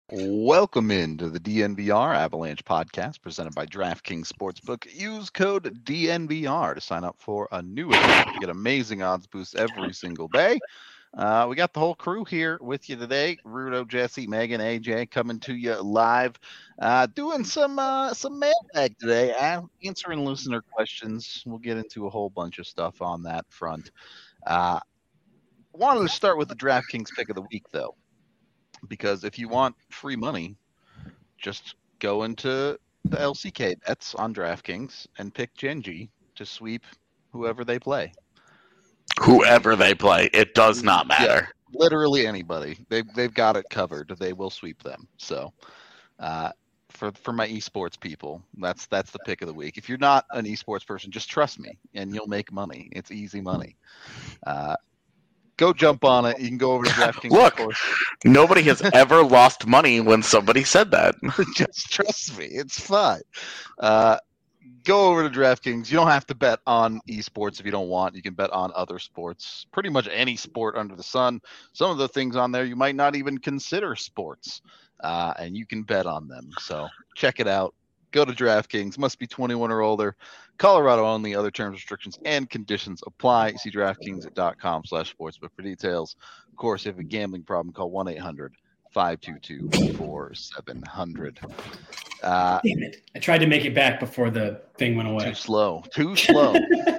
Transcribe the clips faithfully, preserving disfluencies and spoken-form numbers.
Welcome into the D N V R Avalanche podcast presented by DraftKings Sportsbook. Use code D N V R to sign up for a new account to get amazing odds boosts every single day. Uh, we got the whole crew here with you today. Rudo, Jesse, Megan, A J coming to you live, uh, doing some uh, some mailbag today, answering listener questions. We'll get into a whole bunch of stuff on that front. Uh, wanted to start with the DraftKings pick of the week, though. Because if you want free money, just go into the L C K bets on DraftKings and pick Genji to sweep whoever they play. Whoever they play, it does not matter. Yeah, literally anybody. They they've got it covered. They will sweep them. So, uh, for for my esports people, that's that's the pick of the week. If you're not an esports person, just trust me, and you'll make money. It's easy money. Uh, Go jump on it. You can go over to DraftKings. Look, nobody has ever lost money when somebody said that. Just trust me. It's fine. Uh, go over to DraftKings. You don't have to bet on esports if you don't want. You can bet on other sports. Pretty much any sport under the sun. Some of the things on there you might not even consider sports. Uh, and you can bet on them. So check it out. Go to DraftKings. Must be twenty-one or older. Colorado only. Other terms, restrictions, and conditions apply. See DraftKings.com slash sportsbook for details. Of course, if you have a gambling problem, call one eight hundred five two two four seven zero zero. Uh, Damn it. I tried to make it back before the thing went away. Too slow. Too slow.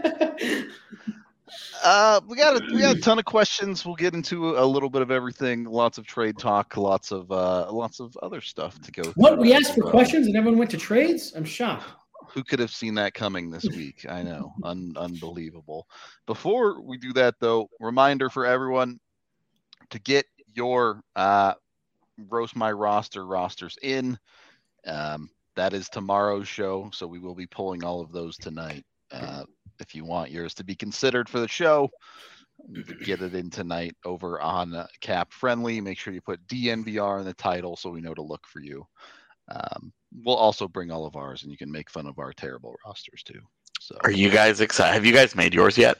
Uh, we got a, we got a ton of questions. We'll get into a little bit of everything. Lots of trade talk. Lots of uh, lots of other stuff to go. What we asked for well. questions and everyone went to trades. I'm shocked. Who could have seen that coming this week? I know, Un- unbelievable. Before we do that, though, reminder for everyone to get your uh, roast my roster rosters in. Um, that is tomorrow's show, so we will be pulling all of those tonight. Uh, If you want yours to be considered for the show, get it in tonight over on uh, Cap Friendly. Make sure you put D N V R in the title so we know to look for you. Um, we'll also bring all of ours, and you can make fun of our terrible rosters too. So, are you guys excited? Have you guys made yours yet?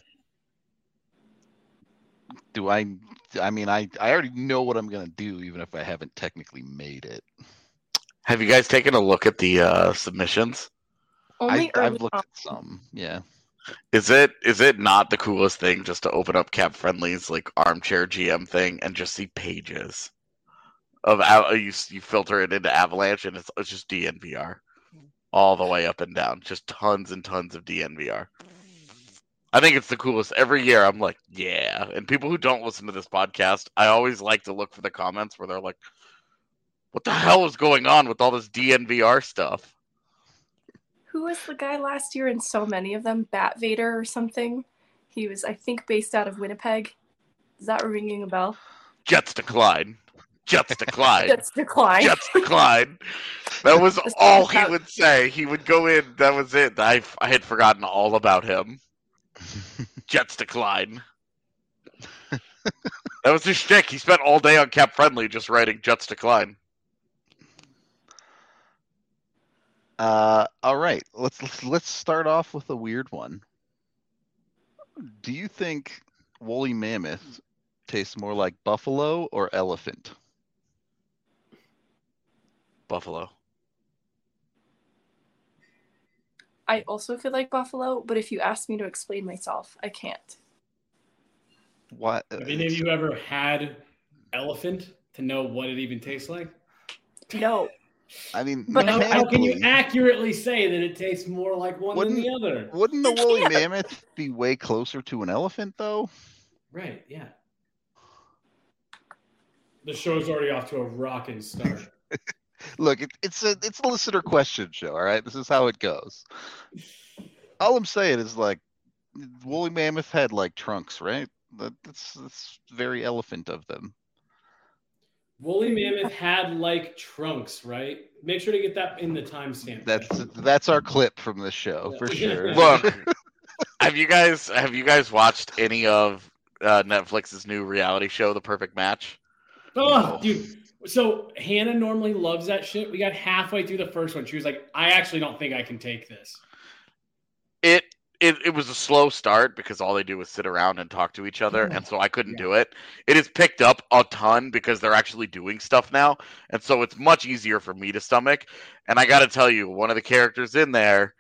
Do I? I mean, I, I already know what I'm gonna do, even if I haven't technically made it. Have you guys taken a look at the uh, submissions? Only I, I've looked at some. Yeah. Is it is it not the coolest thing just to open up Cap Friendly's like armchair G M thing and just see pages of you you filter it into Avalanche and it's, it's just D N V R all the way up and down, just tons and tons of D N V R. I think it's the coolest. Every year I'm like, yeah. And people who don't listen to this podcast, I always like to look for the comments where they're like, what the hell is going on with all this D N V R stuff? Who was the guy last year in so many of them? Bat Vader or something? He was, I think, based out of Winnipeg. Is that ringing a bell? Jets decline. Jets decline. Jets decline. Jets decline. That was all he would say. He would go in. That was it. I, I had forgotten all about him. Jets decline. That was his shtick. He spent all day on Cap Friendly just writing Jets decline. Uh, all right, let's, let's let's start off with a weird one. Do you think woolly mammoth tastes more like buffalo or elephant? Buffalo. I also feel like buffalo, but if you ask me to explain myself, I can't. What? Have any of you ever had elephant to know what it even tastes like? No. I mean, but how, how can you accurately say that it tastes more like one wouldn't, than the other? Wouldn't the woolly mammoth be way closer to an elephant, though? Right, yeah. The show's already off to a rocking start. Look, it, it's a it's a listener question show, all right? This is how it goes. All I'm saying is, like, woolly mammoth had, like, trunks, right? That, that's, that's very elephant of them. Woolly mammoth had like trunks, right? Make sure to get that in the timestamp. That's that's our clip from this show, yeah. For sure. Look, have you guys have you guys watched any of uh, Netflix's new reality show, The Perfect Match? Oh, dude. So Hannah normally loves that shit. We got halfway through the first one. She was like, I actually don't think I can take this. It it, it was a slow start because all they do is sit around and talk to each other, and so I couldn't yeah. do it. It has picked up a ton because they're actually doing stuff now, and so it's much easier for me to stomach. And I got to tell you, one of the characters in there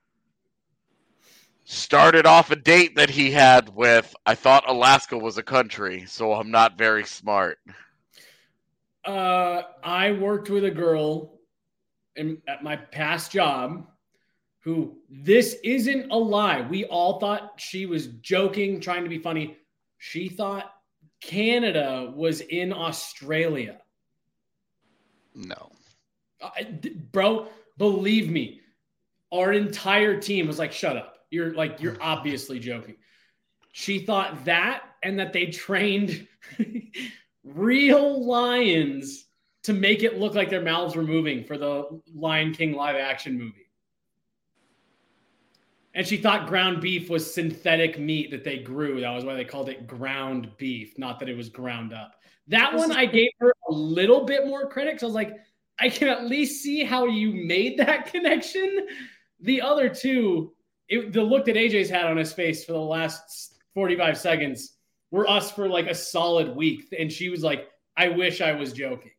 started off a date that he had with, I thought Alaska was a country, so I'm not very smart. Uh, I worked with a girl in, at my past job who, this isn't a lie. We all thought she was joking, trying to be funny. She thought Canada was in Australia. No. Uh, bro, believe me, our entire team was like, shut up. You're like, you're obviously joking. She thought that, and that they trained real lions to make it look like their mouths were moving for the Lion King live action movie. And she thought ground beef was synthetic meat that they grew. That was why they called it ground beef, not that it was ground up. That one I gave her a little bit more credit because I was like, I can at least see how you made that connection. The other two, it, the look that A J's had on his face for the last forty-five seconds were us for like a solid week. And she was like, I wish I was joking.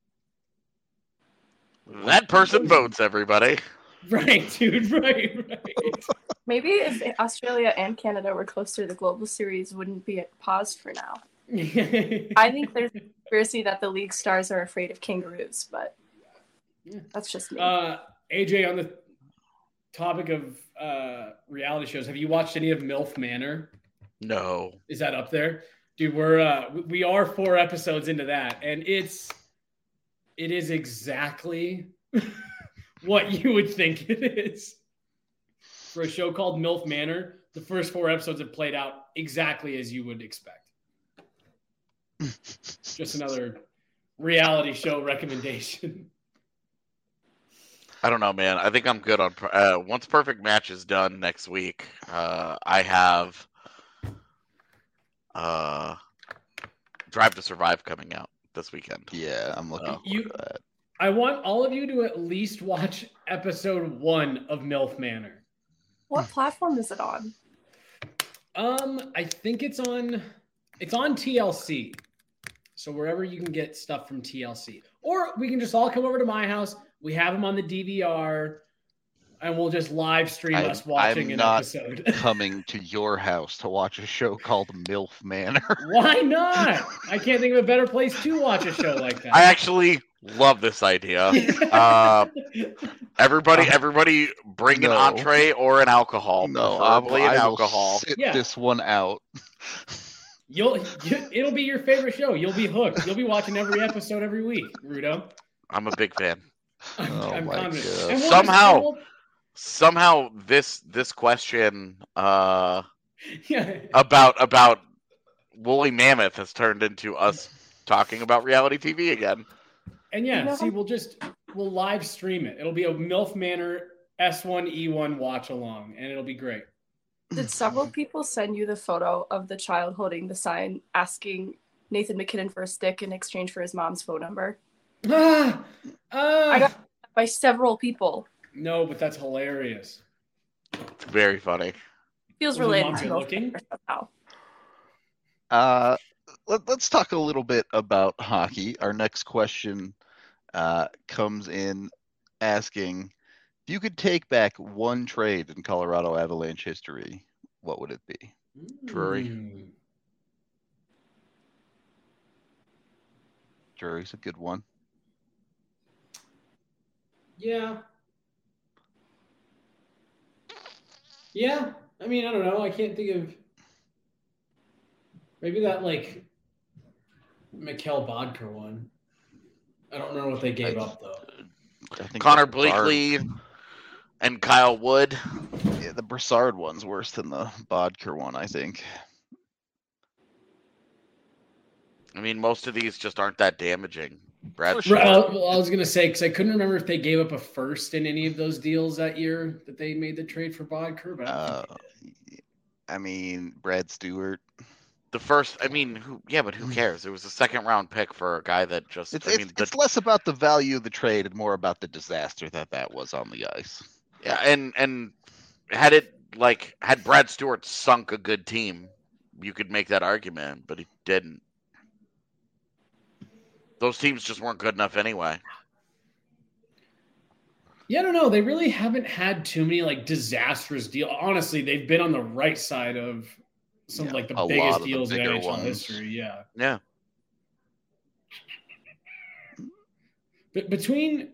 That person votes, everybody. Right, dude, right, right. Maybe if Australia and Canada were closer, the Global Series wouldn't be paused for now. I think there's a conspiracy that the league stars are afraid of kangaroos, but that's just me. Uh, A J, on the topic of uh, reality shows, have you watched any of MILF Manor? No. Is that up there? Dude, we're uh, we are four episodes into that, and it's it is exactly what you would think it is. For a show called MILF Manor, the first four episodes have played out exactly as you would expect. Just another reality show recommendation. I don't know, man. I think I'm good on uh, once Perfect Match is done next week. Uh, I have uh, Drive to Survive coming out this weekend. Yeah, I'm looking Uh, forward you- to that. I want all of you to at least watch episode one of MILF Manor. What platform is it on? Um, I think it's on it's on T L C. So wherever you can get stuff from T L C. Or we can just all come over to my house. We have them on the D V R, and we'll just live stream I- us watching I'm an not episode. Coming to your house to watch a show called MILF Manor. Why not? I can't think of a better place to watch a show like that. I actually love this idea. Uh, everybody, everybody, bring No. an entree or an alcohol. No, preferably I an will alcohol. sit Yeah. this one out. You'll you, it'll be your favorite show. You'll be hooked. You'll be watching every episode every week, Rudo. I'm a big fan. I'm, Oh I'm my confident. God. And we'll Somehow- just- we'll- Somehow, this this question uh, yeah. about about woolly mammoth has turned into us talking about reality T V again. And yeah, You know- see, we'll just we'll live stream it. It'll be a MILF Manor S one E one watch along, and it'll be great. Did several people send you the photo of the child holding the sign asking Nathan McKinnon for a stick in exchange for his mom's phone number? Ah, ah. I got by several people. No, but that's hilarious. It's very funny. Feels Was his related mom to good Milf looking? Manor somehow. Uh, let, let's talk a little bit about hockey. Our next question uh, comes in asking, if you could take back one trade in Colorado Avalanche history, what would it be? Drury. Mm. Drury's a good one. Yeah. Yeah. I mean, I don't know. I can't think of maybe that like Mikhail Bodker one. I don't know what they gave up though. I think Connor the Brassard- Blakely and Kyle Wood. Yeah, the Brassard one's worse than the Bodker one, I think. I mean, most of these just aren't that damaging. Brad For Shaw. Right, I, well, I was gonna say because I couldn't remember if they gave up a first in any of those deals that year that they made the trade for Bodker, but I don't Uh, think they did. I mean, Brad Stewart. The first, I mean, who? Yeah, but who cares? It was a second round pick for a guy that just. It's, I it's, mean, the, it's less about the value of the trade and more about the disaster that that was on the ice. yeah, and and had it like, had Brad Stewart sunk a good team, you could make that argument, but he didn't. Those teams just weren't good enough anyway. Yeah, I don't know. They really haven't had too many like disastrous deals. Honestly, they've been on the right side of some Yeah, like the a biggest lot of the deals in bigger N H L ones. history. Yeah. Yeah. But between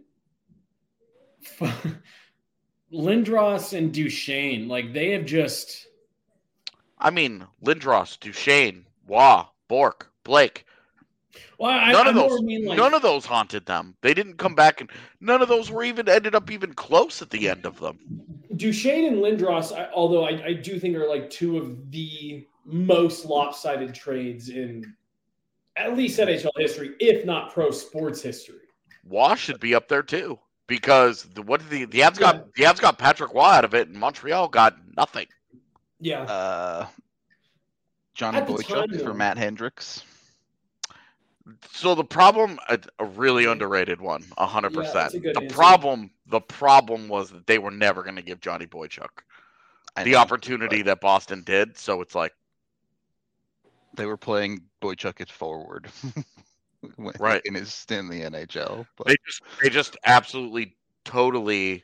Lindros and Duchesne, like they have just. I mean, Lindros, Duchesne, Waugh, Bork, Blake. Well, I, none I of those, more mean like, none of those haunted them. They didn't come back, and none of those were even ended up even close at the end of them. Duchesne and Lindros, I, although I, I do think are like two of the most lopsided trades in at least N H L history, if not pro sports history. Waugh should be up there too, because the, what did the the Avs got? The Avs got Patrick Waugh out of it, and Montreal got nothing. Yeah. Uh, Johnny At the Boychuk time, for though. Matt Hendricks. So the problem, a, a really underrated one, a hundred Yeah, percent. that's a good The answer. problem, the problem was that they were never going to give Johnny Boychuk I the know, opportunity but that Boston did. So it's like, they were playing Boychuk at forward, when- Right. in his stint in the N H L. But they just, they just absolutely, totally,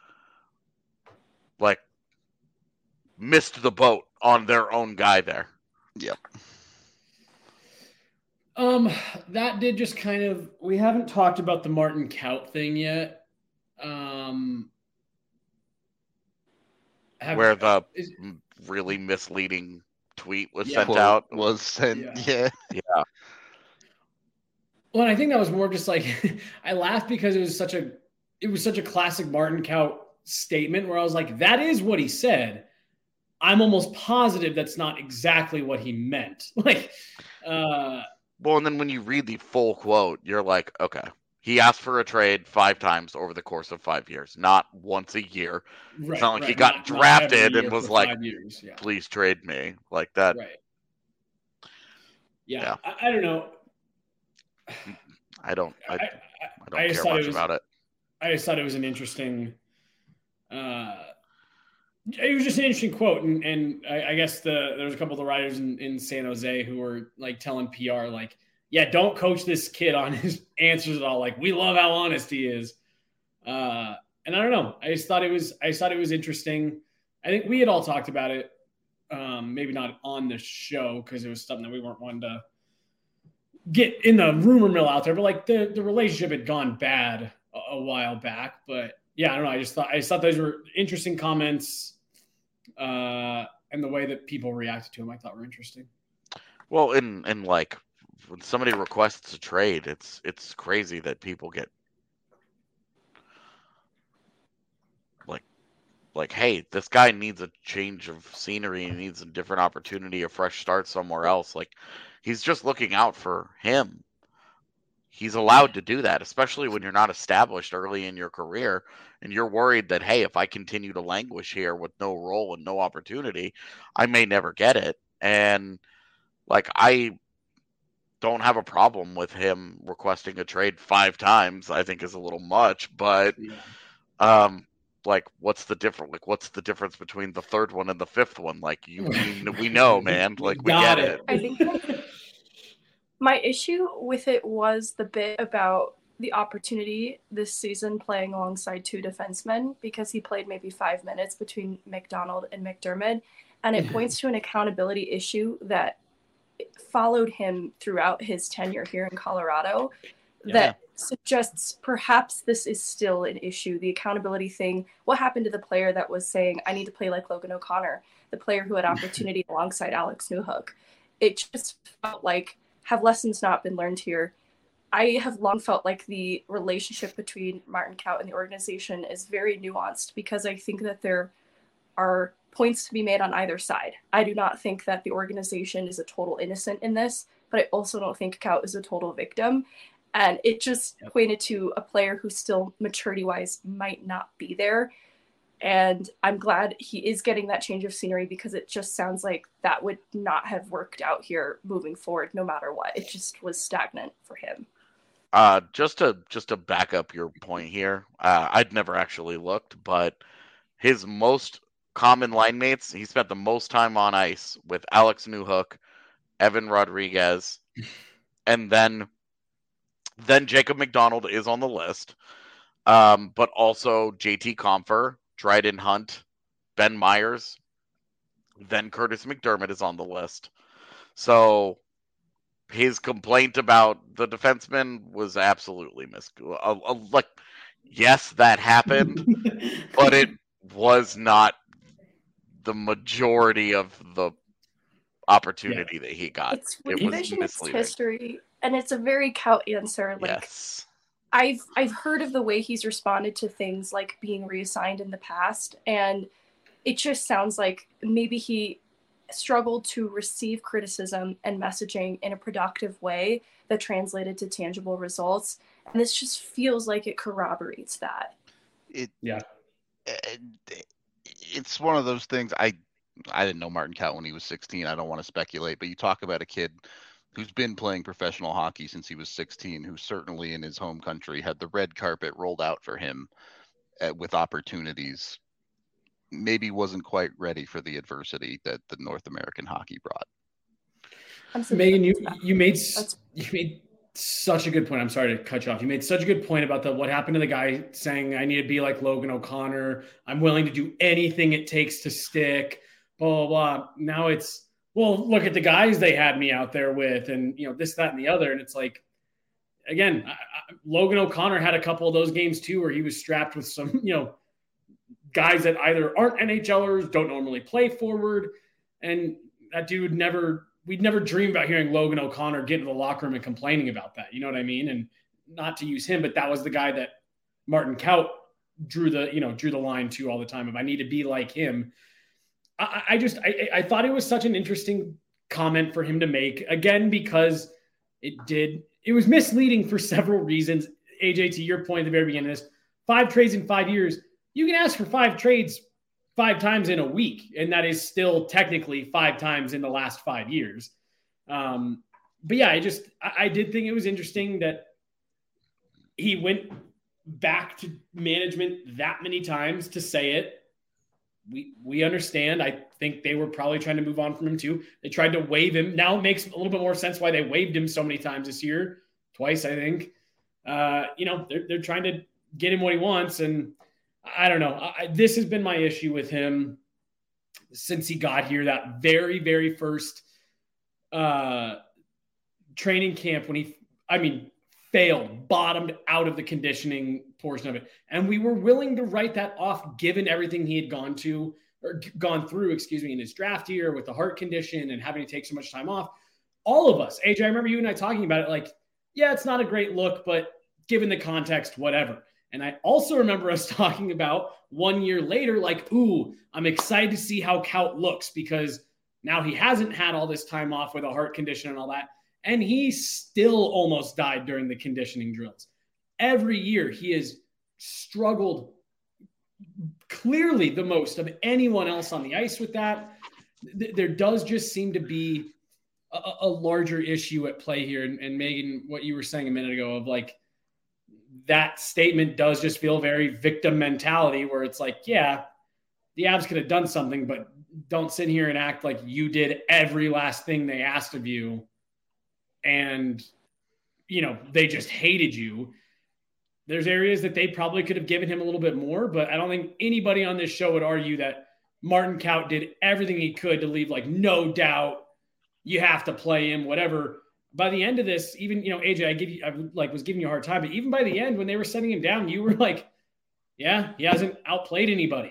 like, missed the boat on their own guy there. yep, Um, that did just kind of. We haven't talked about the Martin Kaut thing yet. Um, have- Where the is- really misleading tweet was Yeah. sent Quote out. was sent. Yeah. Yeah, Yeah. Well, and I think that was more just like I laughed because it was such a it was such a classic Martin Kaut statement where I was like, that is what he said. I'm almost positive that's not exactly what he meant. Like, uh, Well, and then when you read the full quote, you're like, okay, he asked for a trade five times over the course of five years, not once a year. right, not like he right, got not- not drafted every and year was for like, five years. Yeah, Please trade me like that. right. Yeah, Yeah. I, I don't know. I don't, I, I, I, I don't just care thought much it was- about it. I just thought it was an interesting. Uh, it was just an interesting quote, and and I, I guess the there was a couple of the writers in, in San Jose who were like telling P R like, yeah, don't coach this kid on his answers at all. Like, we love how honest he is. Uh, and I don't know. I just thought it was I just thought it was interesting. I think we had all talked about it. Um, maybe not on the show because it was something that we weren't wanting to get in the rumor mill out there, but like the, the relationship had gone bad a, a while back. But yeah, I don't know. I just thought I just thought those were interesting comments, uh, and the way that people reacted to them, I thought were interesting. Well, in, in like, when somebody requests a trade, it's, it's crazy that people get like, like, hey, this guy needs a change of scenery, he needs a different opportunity, a fresh start somewhere else. Like, he's just looking out for him. He's allowed to do that, especially when you're not established early in your career and you're worried that, hey, if I continue to languish here with no role and no opportunity, I may never get it. And like, I don't have a problem with him requesting a trade five times. I think is a little much, but Yeah. um, like, what's the difference? Like, what's the difference between the third one and the fifth one? Like, you, we, we know, man. Like, we Got get it. I think my issue with it was the bit about the opportunity this season playing alongside two defensemen, because he played maybe five minutes between McDonald and McDermott. And it points to an accountability issue that followed him throughout his tenure here in Colorado that suggests perhaps this is still an issue. The accountability thing. What happened to the player that was saying, I need to play like Logan O'Connor, the player who had opportunity alongside Alex Newhook? It just felt like, have lessons not been learned here? I have long felt like the relationship between Martin Kaut and the organization is very nuanced, because I think that there are points to be made on either side. I do not think that the organization is a total innocent in this, but I also don't think Kaut is a total victim. And it just Yep. pointed to a player who still maturity-wise might not be there. And I'm glad he is getting that change of scenery, because it just sounds like that would not have worked out here moving forward, no matter what. It just was stagnant for him. Uh, just to just to back up your point here, uh, I'd never actually looked, but his most common line mates, he spent the most time on ice with Alex Newhook, Evan Rodriguez, and then then Jacob McDonald is on the list. Um, but also J T Compher, Dryden Hunt, Ben Myers, then Curtis McDermott is on the list. So his complaint about the defenseman was absolutely mis. Uh, uh, like, yes, that happened, but it was not the majority of the opportunity yeah. that he got. It's revisionist history, and it's a very Kaut answer. Like, yes. I've I've heard of the way he's responded to things like being reassigned in the past, and it just sounds like maybe he struggled to receive criticism and messaging in a productive way that translated to tangible results. And this just feels like it corroborates that. It yeah. It, it's one of those things. I I didn't know Martin Kaut when he was sixteen. I don't want to speculate, but you talk about a kid who's been playing professional hockey since he was sixteen, who certainly in his home country had the red carpet rolled out for him uh, with opportunities. Maybe wasn't quite ready for the adversity that the North American hockey brought. Megan, you you made you made such a good point. I'm sorry to cut you off. You made such a good point about the what happened to the guy saying, "I need to be like Logan O'Connor. I'm willing to do anything it takes to stick." Blah blah blah. Now it's, well, look at the guys they had me out there with, and you know this, that, and the other. And it's like, again, I, I, Logan O'Connor had a couple of those games too, where he was strapped with some, you know. guys that either aren't N H L ers, don't normally play forward. And that dude never, we'd never dream about hearing Logan O'Connor get in the locker room and complaining about that. You know what I mean? And not to use him, but that was the guy that Martin Kaut drew the, you know, drew the line to all the time. If I need to be like him, I, I just, I, I thought it was such an interesting comment for him to make, again, because it did, it was misleading for several reasons. A J, to your point at the very beginning of this, five trades in five years, you can ask for five trades five times in a week, and that is still technically five times in the last five years. Um, but yeah, I just, I, I did think it was interesting that he went back to management that many times to say it. We we understand. I think they were probably trying to move on from him too. They tried to waive him. Now it makes a little bit more sense why they waived him so many times this year. Twice, I think. Uh, you know, they're, they're trying to get him what he wants, and I don't know. I, this has been my issue with him since he got here. That very, very first uh, training camp when he, I mean, failed, bottomed out of the conditioning portion of it. And we were willing to write that off given everything he had gone to or gone through, excuse me, in his draft year with the heart condition and having to take so much time off. All of us, A J, I remember you and I talking about it like, yeah, it's not a great look, but given the context, whatever. And I also remember us talking about one year later, like, ooh, I'm excited to see how Kaut looks because now he hasn't had all this time off with a heart condition and all that. And he still almost died during the conditioning drills. Every year he has struggled clearly the most of anyone else on the ice with that. There does just seem to be a, a larger issue at play here. And, and Megan, what you were saying a minute ago of like, that statement does just feel very victim mentality where it's like, yeah, the Avs could have done something, but don't sit here and act like you did every last thing they asked of you. And, you know, they just hated you. There's areas that they probably could have given him a little bit more, but I don't think anybody on this show would argue that Martin Kaut did everything he could to leave like no doubt you have to play him, whatever. By the end of this, even, you know, A J, I give you, I like was giving you a hard time, but even by the end, when they were setting him down, you were like, yeah, he hasn't outplayed anybody.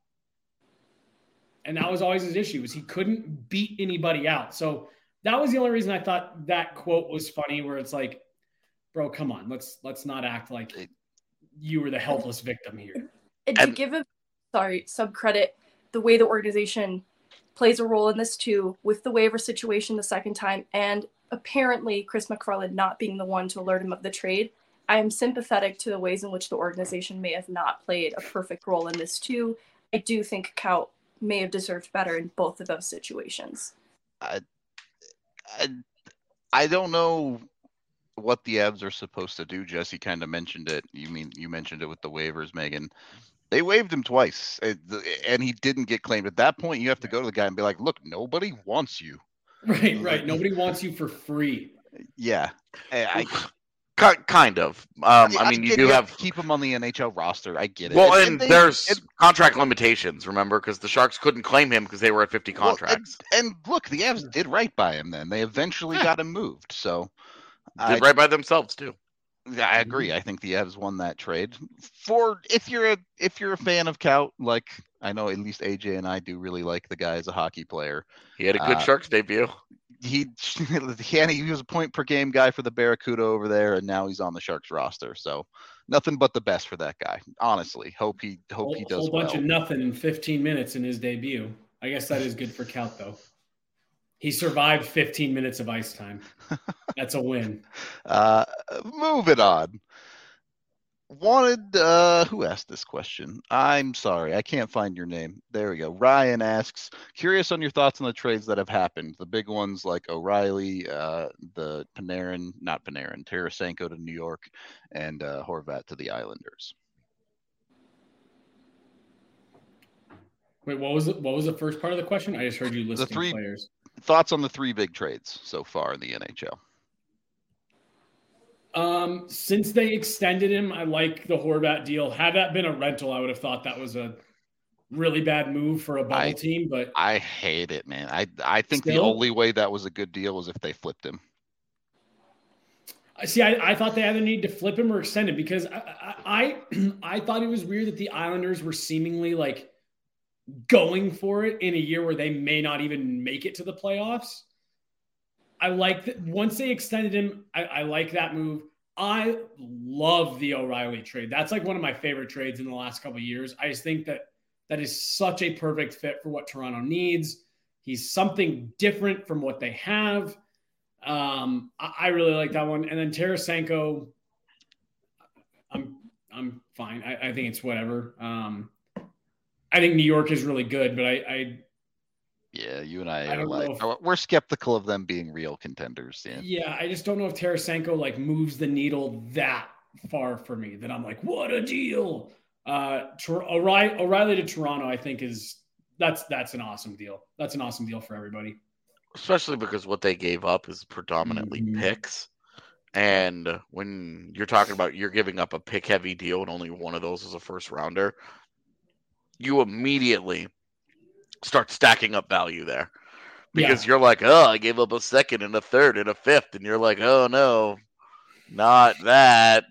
And that was always his issue, was he couldn't beat anybody out. So that was the only reason I thought that quote was funny, where it's like, bro, come on, let's, let's not act like you were the helpless victim here. And to give him, sorry, some credit, the way the organization plays a role in this too, with the waiver situation the second time, and apparently Chris McFarland not being the one to alert him of the trade, I am sympathetic to the ways in which the organization may have not played a perfect role in this too. I do think Kaut may have deserved better in both of those situations. I, I, I don't know what the Avs are supposed to do. Jesse kind of mentioned it. You mean you mentioned it with the waivers, Megan. They waived him twice, and he didn't get claimed. At that point, you have to go to the guy and be like, "Look, nobody wants you." Right, right. Nobody wants you for free. Yeah, I, kind of. Um, I, I mean, I you do you have, have to keep him on the N H L roster. I get it. Well, and, and they, there's and, contract limitations. Remember, because the Sharks couldn't claim him because they were at fifty contracts. Well, and, and look, the Avs did right by him. Then they eventually yeah. got him moved. So did I, right by themselves too. I agree. I think the Avs won that trade. For if you're a if you're a fan of Kaut, like I know at least A J and I do really like the guy as a hockey player. He had a good uh, Sharks debut. He he was a point per game guy for the Barracuda over there, and now he's on the Sharks roster. So nothing but the best for that guy. Honestly, hope he hope whole, he does. A whole bunch well. of nothing in fifteen minutes in his debut. I guess that is good for Kaut though. He survived fifteen minutes of ice time. That's a win. Uh, moving on. Wanted, uh, who asked this question? I'm sorry, I can't find your name. There we go. Ryan asks, curious on your thoughts on the trades that have happened. The big ones like O'Reilly, uh, the Panarin, not Panarin, Tarasenko to New York, and uh, Horvat to the Islanders. Wait, what was it? What was the first part of the question? I just heard you listing the three, players. Thoughts on the three big trades so far in the N H L? Um, since they extended him, I like the Horvat deal. Had that been a rental, I would have thought that was a really bad move for a bubble I, team. But I hate it, man. I I think still, the only way that was a good deal was if they flipped him. I see. I, I thought they either need to flip him or extend him because I I, I I thought it was weird that the Islanders were seemingly like going for it in a year where they may not even make it to the playoffs. I like that once they extended him. I, I like that move. I love the O'Reilly trade. That's like one of my favorite trades in the last couple of years. I just think that that is such a perfect fit for what Toronto needs. He's something different from what they have. Um, I, I really like that one. And then Tarasenko, I'm I'm fine. I, I think it's whatever. Um, I think New York is really good, but I, I yeah, you and I, I are like if, we're skeptical of them being real contenders. Yeah. yeah, I just don't know if Tarasenko like moves the needle that far for me that I'm like, what a deal. Uh, O'Reilly, O'Reilly to Toronto, I think is that's that's an awesome deal. That's an awesome deal for everybody. Especially because what they gave up is predominantly mm-hmm. picks. And when you're talking about you're giving up a pick heavy deal and only one of those is a first rounder, you immediately start stacking up value there because yeah. you're like, oh, I gave up a second and a third and a fifth. And you're like, oh no, not that.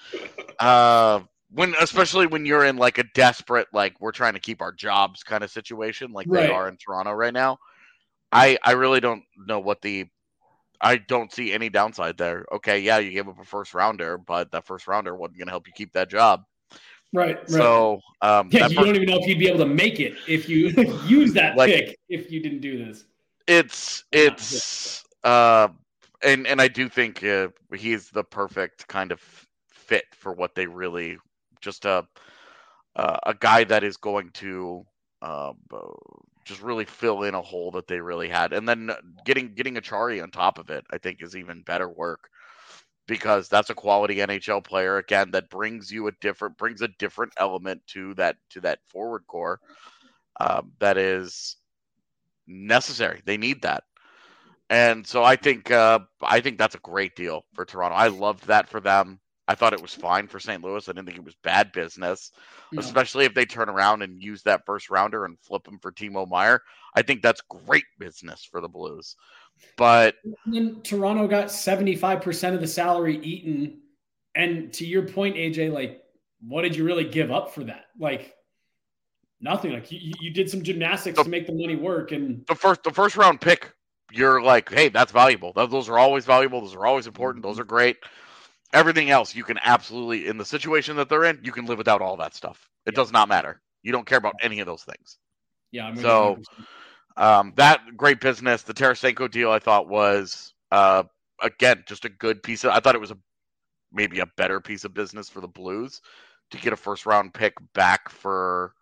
uh, when, especially when you're in like a desperate, like we're trying to keep our jobs kind of situation, like right. they are in Toronto right now. I, I really don't know what the, I don't see any downside there. Okay. Yeah. You gave up a first rounder, but that first rounder wasn't going to help you keep that job. Right, right. So, um, yeah, you part, don't even know if you'd be able to make it if you use that like, pick if you didn't do this. It's it's uh, and and I do think uh, he's the perfect kind of fit for what they really just a uh, a guy that is going to uh, just really fill in a hole that they really had, and then getting getting Achari on top of it, I think, is even better work. Because that's a quality N H L player again that brings you a different brings a different element to that to that forward core um, that is necessary. They need that, and so I think uh, I think that's a great deal for Toronto. I loved that for them. I thought it was fine for Saint Louis. I didn't think it was bad business, no. especially if they turn around and use that first rounder and flip him for Timo Meier. I think that's great business for the Blues. But and then Toronto got seventy-five percent of the salary eaten. And to your point, A J, like, what did you really give up for that? Like, nothing. Like, you, you did some gymnastics the, to make the money work. And the first, the first round pick, you're like, hey, that's valuable. Those are always valuable. Those are always important. Those are great. Everything else, you can absolutely, in the situation that they're in, you can live without all that stuff. It yeah. does not matter. You don't care about any of those things. Yeah. I'm so. Um, that great business, the Tarasenko deal, I thought was, uh, again, just a good piece of, I thought it was a, maybe a better piece of business for the Blues to get a first round pick back for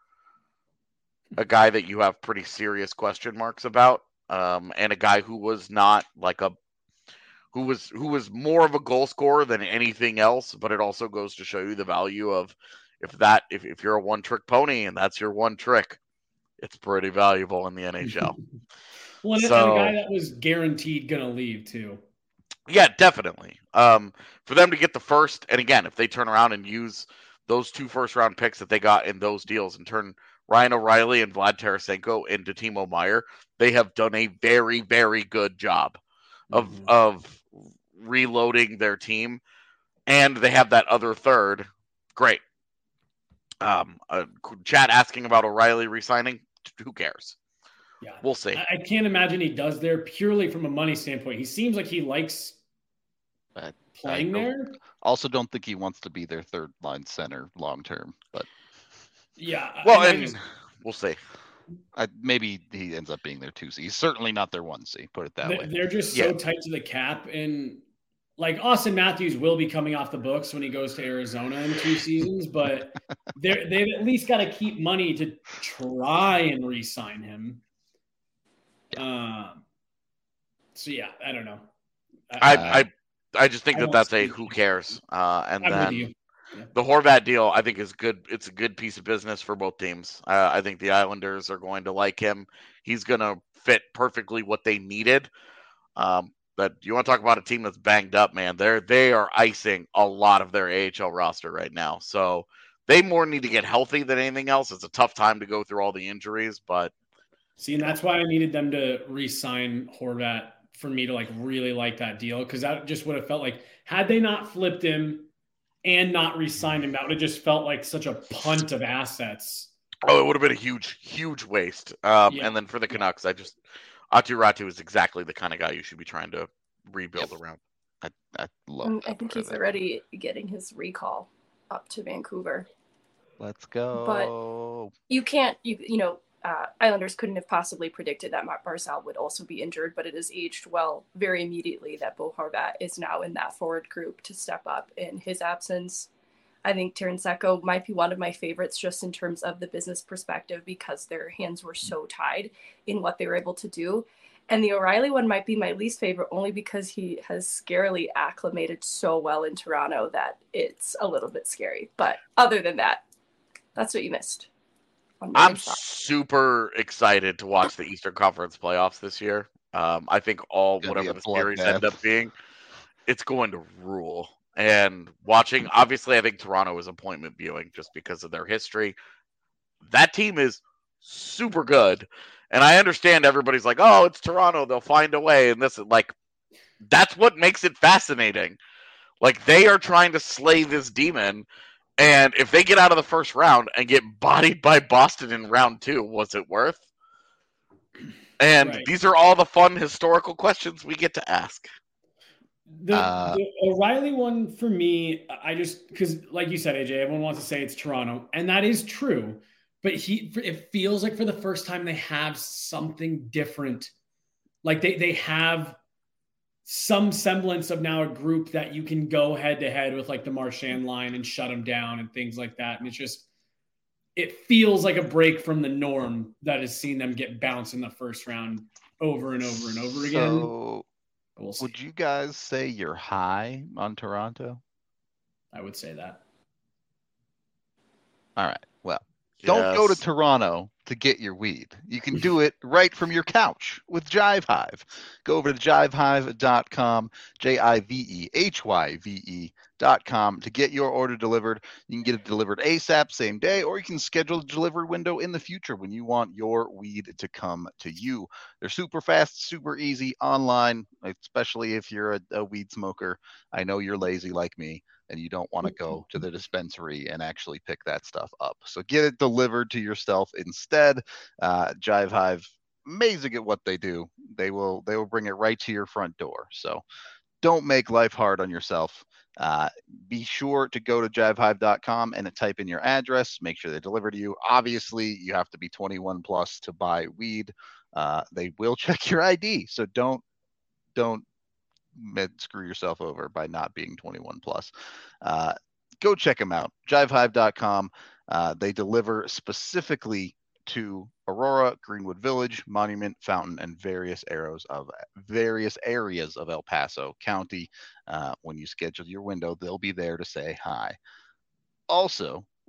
a guy that you have pretty serious question marks about. Um, and a guy who was not like a, who was, who was more of a goal scorer than anything else, but it also goes to show you the value of if that if, if you're a one trick pony and that's your one trick, it's pretty valuable in the N H L. Well, and, so, and a guy that was guaranteed gonna leave too. Yeah, definitely. Um, for them to get the first, and again, if they turn around and use those two first round picks that they got in those deals and turn Ryan O'Reilly and Vlad Tarasenko into Timo Meier, they have done a very, very good job of mm-hmm. of reloading their team, and they have that other third. Great. Um, uh, chat asking about O'Reilly resigning. Who cares? Yeah, we'll see. I, I can't imagine he does there purely from a money standpoint. He seems like he likes but playing there. Also, don't think he wants to be their third line center long term. But yeah, well, and, and just, we'll see. I, maybe he ends up being their two C. He's certainly not their one C. Put it that they're, way. They're just so yeah. tight to the cap, and like Austin Matthews will be coming off the books when he goes to Arizona in two seasons, but they they've at least got to keep money to try and re-sign him. Um. So yeah, I don't know. I I, I, I just think I that that's a who cares. Uh, and I'm then yeah. the Horvat deal, I think, is good. It's a good piece of business for both teams. Uh, I think the Islanders are going to like him. He's going to fit perfectly what they needed. Um, but you want to talk about a team that's banged up, man? They're they are icing a lot of their A H L roster right now. So they more need to get healthy than anything else. It's a tough time to go through all the injuries, but. See, and that's why I needed them to re-sign Horvat for me to like really like that deal, because that just would have felt like had they not flipped him and not re-signed him, that would have just felt like such a punt of assets. Oh, it would have been a huge, huge waste. Um, yeah. And then for the Canucks, I just Aatu Räty is exactly the kind of guy you should be trying to rebuild yep. around. I, I love. Um, I think he's already getting his recall up to Vancouver. Let's go. But you can't, you you know. Uh, Islanders couldn't have possibly predicted that Matt Barzal would also be injured, but it has aged well very immediately that Bo Horvat is now in that forward group to step up in his absence. I think Tarasenko might be one of my favorites just in terms of the business perspective because their hands were so tied in what they were able to do. And the O'Reilly one might be my least favorite only because he has scarily acclimated so well in Toronto that it's a little bit scary. But other than that, that's what you missed. I'm super excited to watch the Eastern Conference playoffs this year. Um, I think all whatever the series end up being, it's going to rule. And watching, obviously, I think Toronto is appointment viewing just because of their history. That team is super good, and I understand everybody's like, "Oh, it's Toronto; they'll find a way." And this, like, that's what makes it fascinating. Like they are trying to slay this demon. And if they get out of the first round and get bodied by Boston in round two, was it worth? And right. These are all the fun historical questions we get to ask. The, uh, the O'Reilly one for me, I just because, like you said, A J, everyone wants to say it's Toronto, and that is true. But he, it feels like for the first time they have something different. Like they they have some semblance of now a group that you can go head to head with like the Marchand line and shut them down and things like that. And it's just, it feels like a break from the norm that has seen them get bounced in the first round over and over and over again. So we'll would you guys say you're high on Toronto? I would say that. All right. Well, don't yes. go to Toronto to get your weed. You can do it right from your couch with Jive Hive. Go over to jive hive dot com, J I V E H Y V E dot com to get your order delivered. You can get it delivered ASAP, same day, or you can schedule a delivery window in the future when you want your weed to come to you. They're super fast, super easy, online, especially if you're a, a weed smoker. I know you're lazy like me, and you don't want to go to the dispensary and actually pick that stuff up. So get it delivered to yourself instead. Uh, Jive Hive, amazing at what they do. They will they will bring it right to your front door. So don't make life hard on yourself. Uh, be sure to go to jive hive dot com and type in your address. Make sure they deliver to you. Obviously, you have to be twenty-one plus to buy weed. Uh, they will check your I D, so don't don't screw yourself over by not being twenty-one plus. Uh, go check them out. jive hive dot com. Uh, they deliver specifically to Aurora, Greenwood Village, Monument, Fountain, and various areas of various areas of El Paso County. Uh, when you schedule your window, they'll be there to say hi. Also,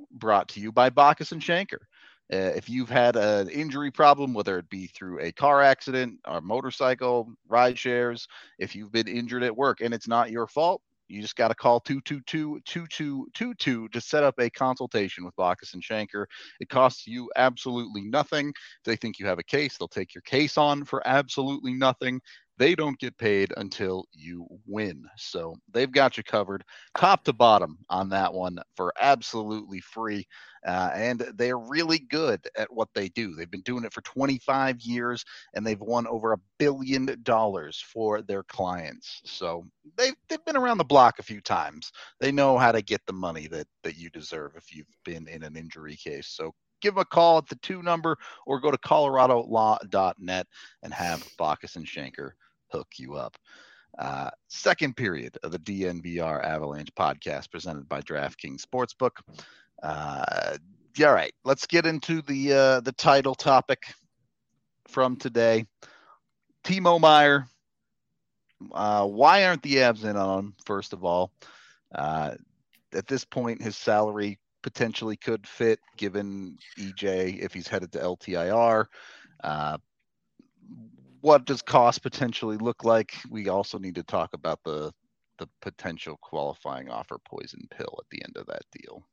brought to you by Bacchus and Shanker. Uh, if you've had an injury problem, whether it be through a car accident or motorcycle, ride shares, if you've been injured at work and it's not your fault, you just got to call two two two, two two two two to set up a consultation with Bacchus and Shanker. It costs you absolutely nothing. If they think you have a case, they'll take your case on for absolutely nothing. They don't get paid until you win. So they've got you covered top to bottom on that one for absolutely free. Uh, and they're really good at what they do. They've been doing it for twenty-five years, and they've won over a billion dollars for their clients. So they've, they've been around the block a few times. They know how to get the money that, that you deserve if you've been in an injury case. So give them a call at the two number or go to colorado law dot net and have Bacchus and Shanker hook you up. Uh, second period of the D N V R Avalanche podcast presented by DraftKings Sportsbook. Uh, all right, let's get into the uh, the title topic from today. Timo Meier. Uh, why aren't the Avs in on him, first of all? Uh, at this point, his salary potentially could fit, given E J if he's headed to L T I R. Uh, what does cost potentially look like? We also need to talk about the the potential qualifying offer poison pill at the end of that deal.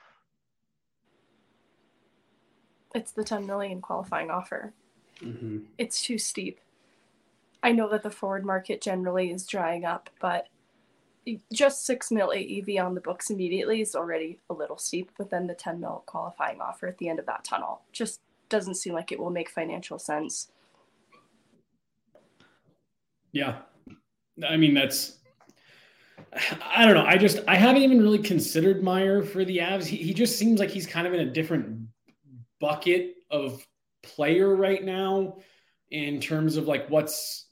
It's the ten million qualifying offer. Mm-hmm. It's too steep. I know that the forward market generally is drying up, but just six mil A E V on the books immediately is already a little steep, but then the ten mil qualifying offer at the end of that tunnel just doesn't seem like it will make financial sense. Yeah. I mean, that's, I don't know. I just, I haven't even really considered Meier for the Avs. He, he just seems like he's kind of in a different bucket of player right now in terms of like what's,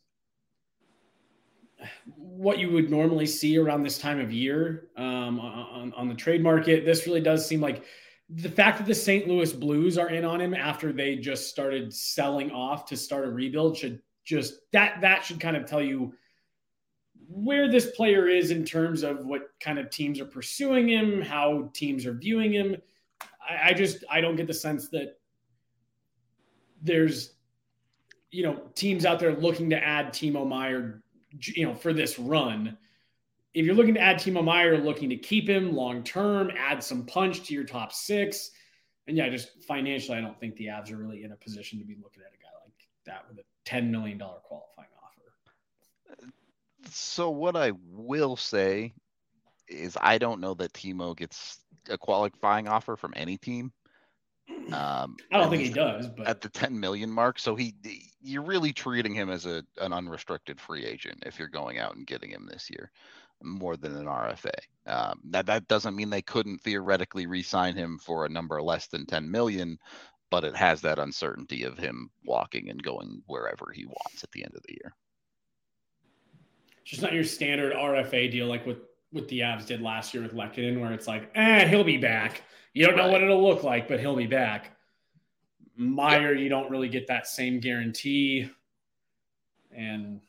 what you would normally see around this time of year um, on, on the trade market. This really does seem like the fact that the Saint Louis Blues are in on him after they just started selling off to start a rebuild should just that, that should kind of tell you where this player is in terms of what kind of teams are pursuing him, how teams are viewing him. I, I just, I don't get the sense that there's, you know, teams out there looking to add Timo Meier, you know, for this run. If you're looking to add Timo Meier, looking to keep him long-term, add some punch to your top six. And yeah, just financially, I don't think the Avs are really in a position to be looking at a guy like that with a ten million dollars qualifying offer. So what I will say is I don't know that Timo gets a qualifying offer from any team. Um, I don't think he does, but at the ten million mark. So he, you're really treating him as a, an unrestricted free agent if you're going out and getting him this year more than an R F A. Um, that, that doesn't mean they couldn't theoretically re-sign him for a number less than ten million, but it has that uncertainty of him walking and going wherever he wants at the end of the year. It's just not your standard R F A deal like what, what the Avs did last year with Lehkonen, where it's like, eh, he'll be back. You don't know Right. what it'll look like, but he'll be back. Meier, you don't really get that same guarantee. And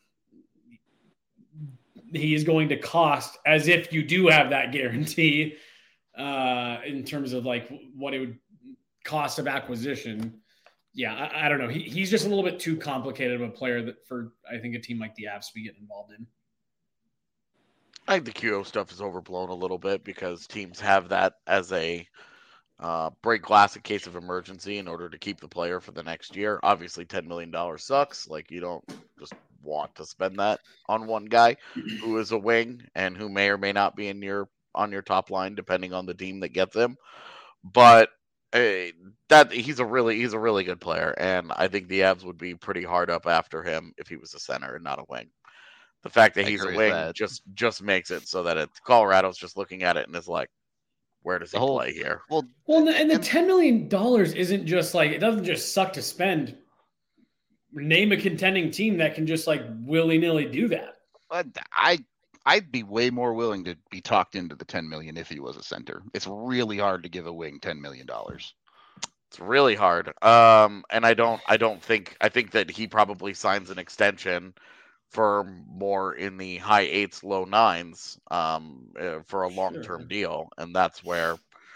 he is going to cost as if you do have that guarantee uh, in terms of like what it would cost of acquisition. Yeah, I, I don't know. He, he's just a little bit too complicated of a player that for, I think, a team like the Avs to be getting involved in. I think the Q O stuff is overblown a little bit because teams have that as a uh, break glass in case of emergency in order to keep the player for the next year. Obviously, ten million dollars sucks. Like, you don't just want to spend that on one guy who is a wing and who may or may not be in your on your top line, depending on the team that gets him. But uh, that he's a really he's a really good player, and I think the Avs would be pretty hard up after him if he was a center and not a wing. The fact that I he's a agree wing with that. just just makes it so that it's Colorado's just looking at it and is like, where does he The whole- play here? Well, Well, and the, and the And- ten million dollars isn't just like, it doesn't just suck to spend. Name a contending team that can just like willy-nilly do that. But I I'd be way more willing to be talked into the ten million if he was a center. It's really hard to give a wing ten million dollars. It's really hard. Um, and I don't I don't think I think that he probably signs an extension for more in the high eights, low nines, um, uh, for a long-term Sure. deal, and that's where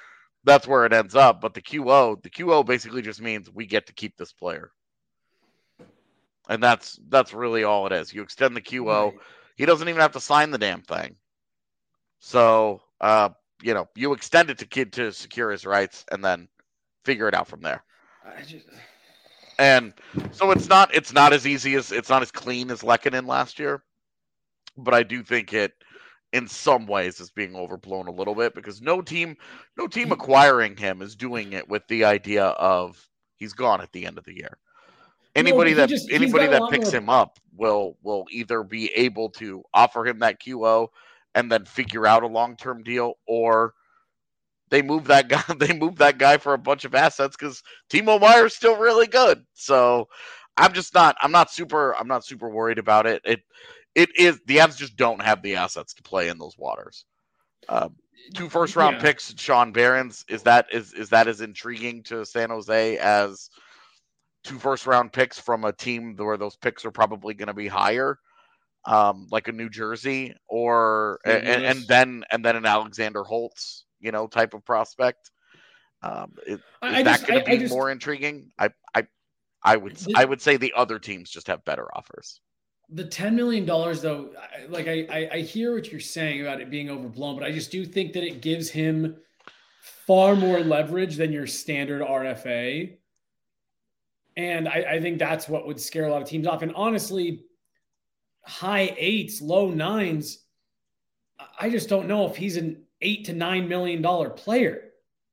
that's where it ends up. But the Q O, the Q O basically just means we get to keep this player. And that's that's really all it is. You extend the Q O. Right. He doesn't even have to sign the damn thing. So, uh, you know, you extend it to kid to secure his rights and then figure it out from there. I just... And so it's not it's not as easy as it's not as clean as Lehkonen last year. But I do think it in some ways is being overblown a little bit because no team no team acquiring him is doing it with the idea of he's gone at the end of the year. Anybody no, that just, anybody that picks more... him up will will either be able to offer him that Q O and then figure out a long-term deal, or they move that guy they move that guy for a bunch of assets because Timo Meier's still really good. So I'm just not I'm not super I'm not super worried about it. It it is the Avs just don't have the assets to play in those waters. Um, two first round yeah. picks, Sean Barons, is that is is that as intriguing to San Jose as two first round picks from a team where those picks are probably going to be higher, um, like a New Jersey, or and, and then and then an Alexander Holtz, you know, type of prospect. Um, is, is that going to be just, more intriguing? I, I, I would the, I would say the other teams just have better offers. The ten million dollars, though, like I, I I hear what you're saying about it being overblown, but I just do think that it gives him far more leverage than your standard R F A. And I, I think that's what would scare a lot of teams off. And honestly, high eights, low nines, I just don't know if he's an eight to nine million dollar player.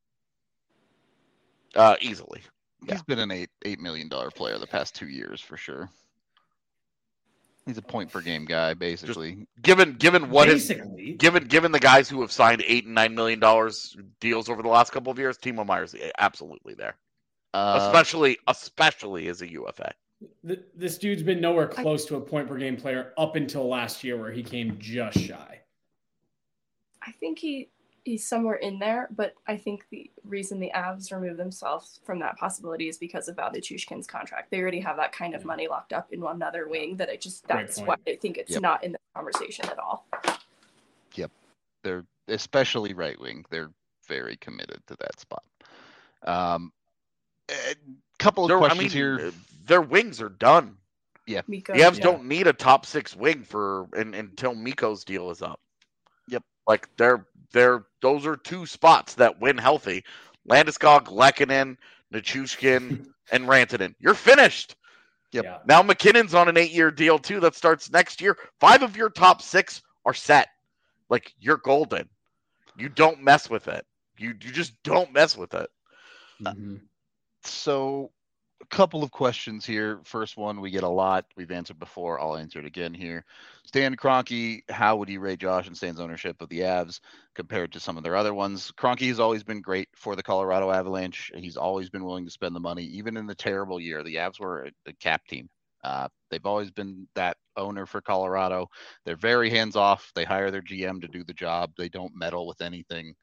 Uh, easily. He's yeah. been an eight eight million dollar player the past two years for sure. He's a point per game guy, basically. Just given given what basically. Is, given given the guys who have signed eight and nine million dollars deals over the last couple of years, Timo Meier's absolutely there. Uh, especially, especially as a U F A. Th- this dude's been nowhere close to a point per game player up until last year, where he came just shy. I think he he's somewhere in there, but I think the reason the Avs remove themselves from that possibility is because of Valdichushkin's contract. They already have that kind of money locked up in another wing that I just that's why I think it's yep. not in the conversation at all. Yep, they're especially right wing. They're very committed to that spot. Um. A couple of their, questions I mean, here. Their wings are done. Yeah, Mikko, the Avs yeah. don't need a top six wing for in, until Mikko's deal is up. Yep, like they're they're those are two spots that win healthy. Landeskog, Lehkonen, Nichushkin, and Rantanen. You're finished. Yep. Yeah. Now McKinnon's on an eight-year deal too that starts next year. Five of your top six are set. Like you're golden. You don't mess with it. You you just don't mess with it. Mm-hmm. So a couple of questions here. First one, we get a lot. We've answered before. I'll answer it again here. Stan Kroenke, how would you rate Josh and Stan's ownership of the Avs compared to some of their other ones? Kroenke has always been great for the Colorado Avalanche. He's always been willing to spend the money, even in the terrible year. The Avs were a, a cap team. Uh, they've always been that owner for Colorado. They're very hands-off. They hire their G M to do the job. They don't meddle with anything.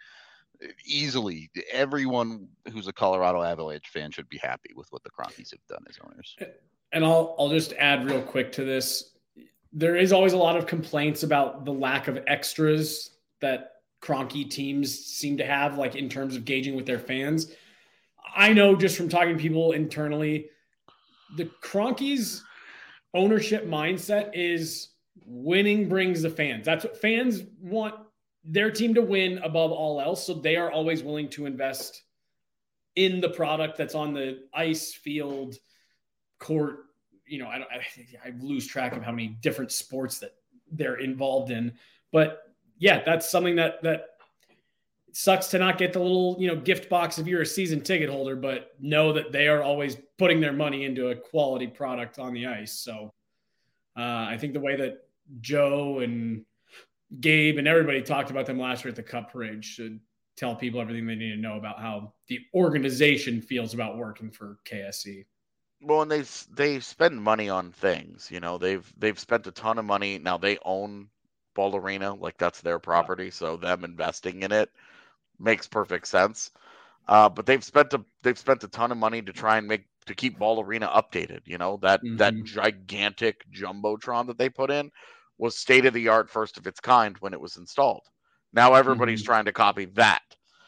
Easily, everyone who's a Colorado Avalanche fan should be happy with what the Kroenkes have done as owners. And I'll I'll just add real quick to this. There is always a lot of complaints about the lack of extras that Kroenke teams seem to have, like in terms of gauging with their fans. I know just from talking to people internally, the Kroenke's ownership mindset is winning brings the fans. That's what fans want. Their team to win above all else. So they are always willing to invest in the product that's on the ice, field, court. You know, I don't, I, I lose track of how many different sports that they're involved in, but yeah, that's something that, that sucks to not get the little, you know, gift box if you're a season ticket holder, but know that they are always putting their money into a quality product on the ice. So uh, I think the way that Joe and Gabe and everybody talked about them last year at the Cup Parade should tell people everything they need to know about how the organization feels about working for K S E. Well, and they they spend money on things. You know, they've they've spent a ton of money. Now they own Ball Arena, like that's their property, yeah. So them investing in it makes perfect sense. Uh, but they've spent a they've spent a ton of money to try and make to keep Ball Arena updated. You know, that mm-hmm. that gigantic jumbotron that they put in was state of the art, first of its kind when it was installed. Now everybody's mm-hmm. trying to copy that.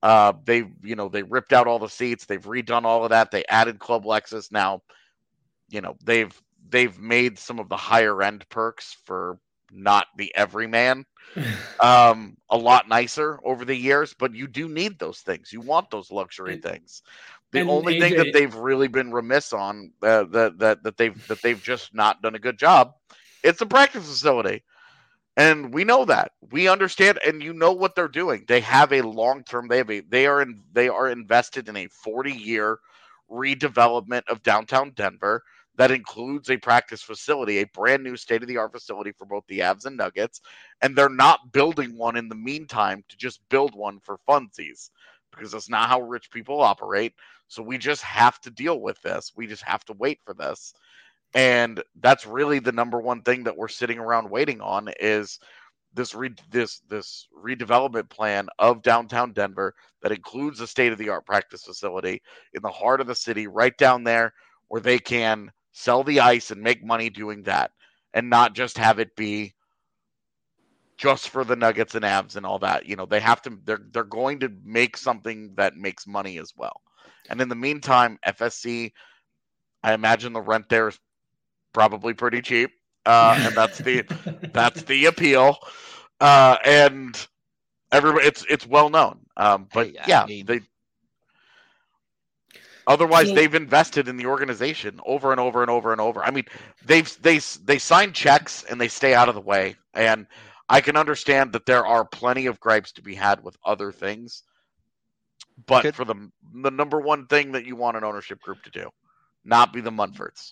Uh, they, you know, they ripped out all the seats. They've redone all of that. They added Club Lexus. Now, you know, they've they've made some of the higher end perks for not the everyman um, a lot nicer over the years. But you do need those things. You want those luxury And- things. The and only A thing J that they've really been remiss on, uh, that that that they've that they've just not done a good job, it's a practice facility. And we know that. We understand, and you know what they're doing. They have a long term. They have a. They are in. They are invested in a forty year redevelopment of downtown Denver that includes a practice facility, a brand new state of the art facility for both the Avs and Nuggets. And they're not building one in the meantime to just build one for funsies, because that's not how rich people operate. So we just have to deal with this. We just have to wait for this. And that's really the number one thing that we're sitting around waiting on is this re- this this redevelopment plan of downtown Denver that includes a state-of-the-art practice facility in the heart of the city, right down there, where they can sell the ice and make money doing that, and not just have it be just for the Nuggets and Avs and all that. You know, they have to. They're they're going to make something that makes money as well. And in the meantime, F S C, I imagine the rent there is probably pretty cheap, uh, and that's the that's the appeal. Uh, and everybody, it's it's well known. Um, but Hey, I yeah, mean- they. Otherwise, So- they've invested in the organization over and over and over and over. I mean, they've they they sign checks and they stay out of the way. And I can understand that there are plenty of gripes to be had with other things, but Could- for the the number one thing that you want an ownership group to do, not be the Munfords.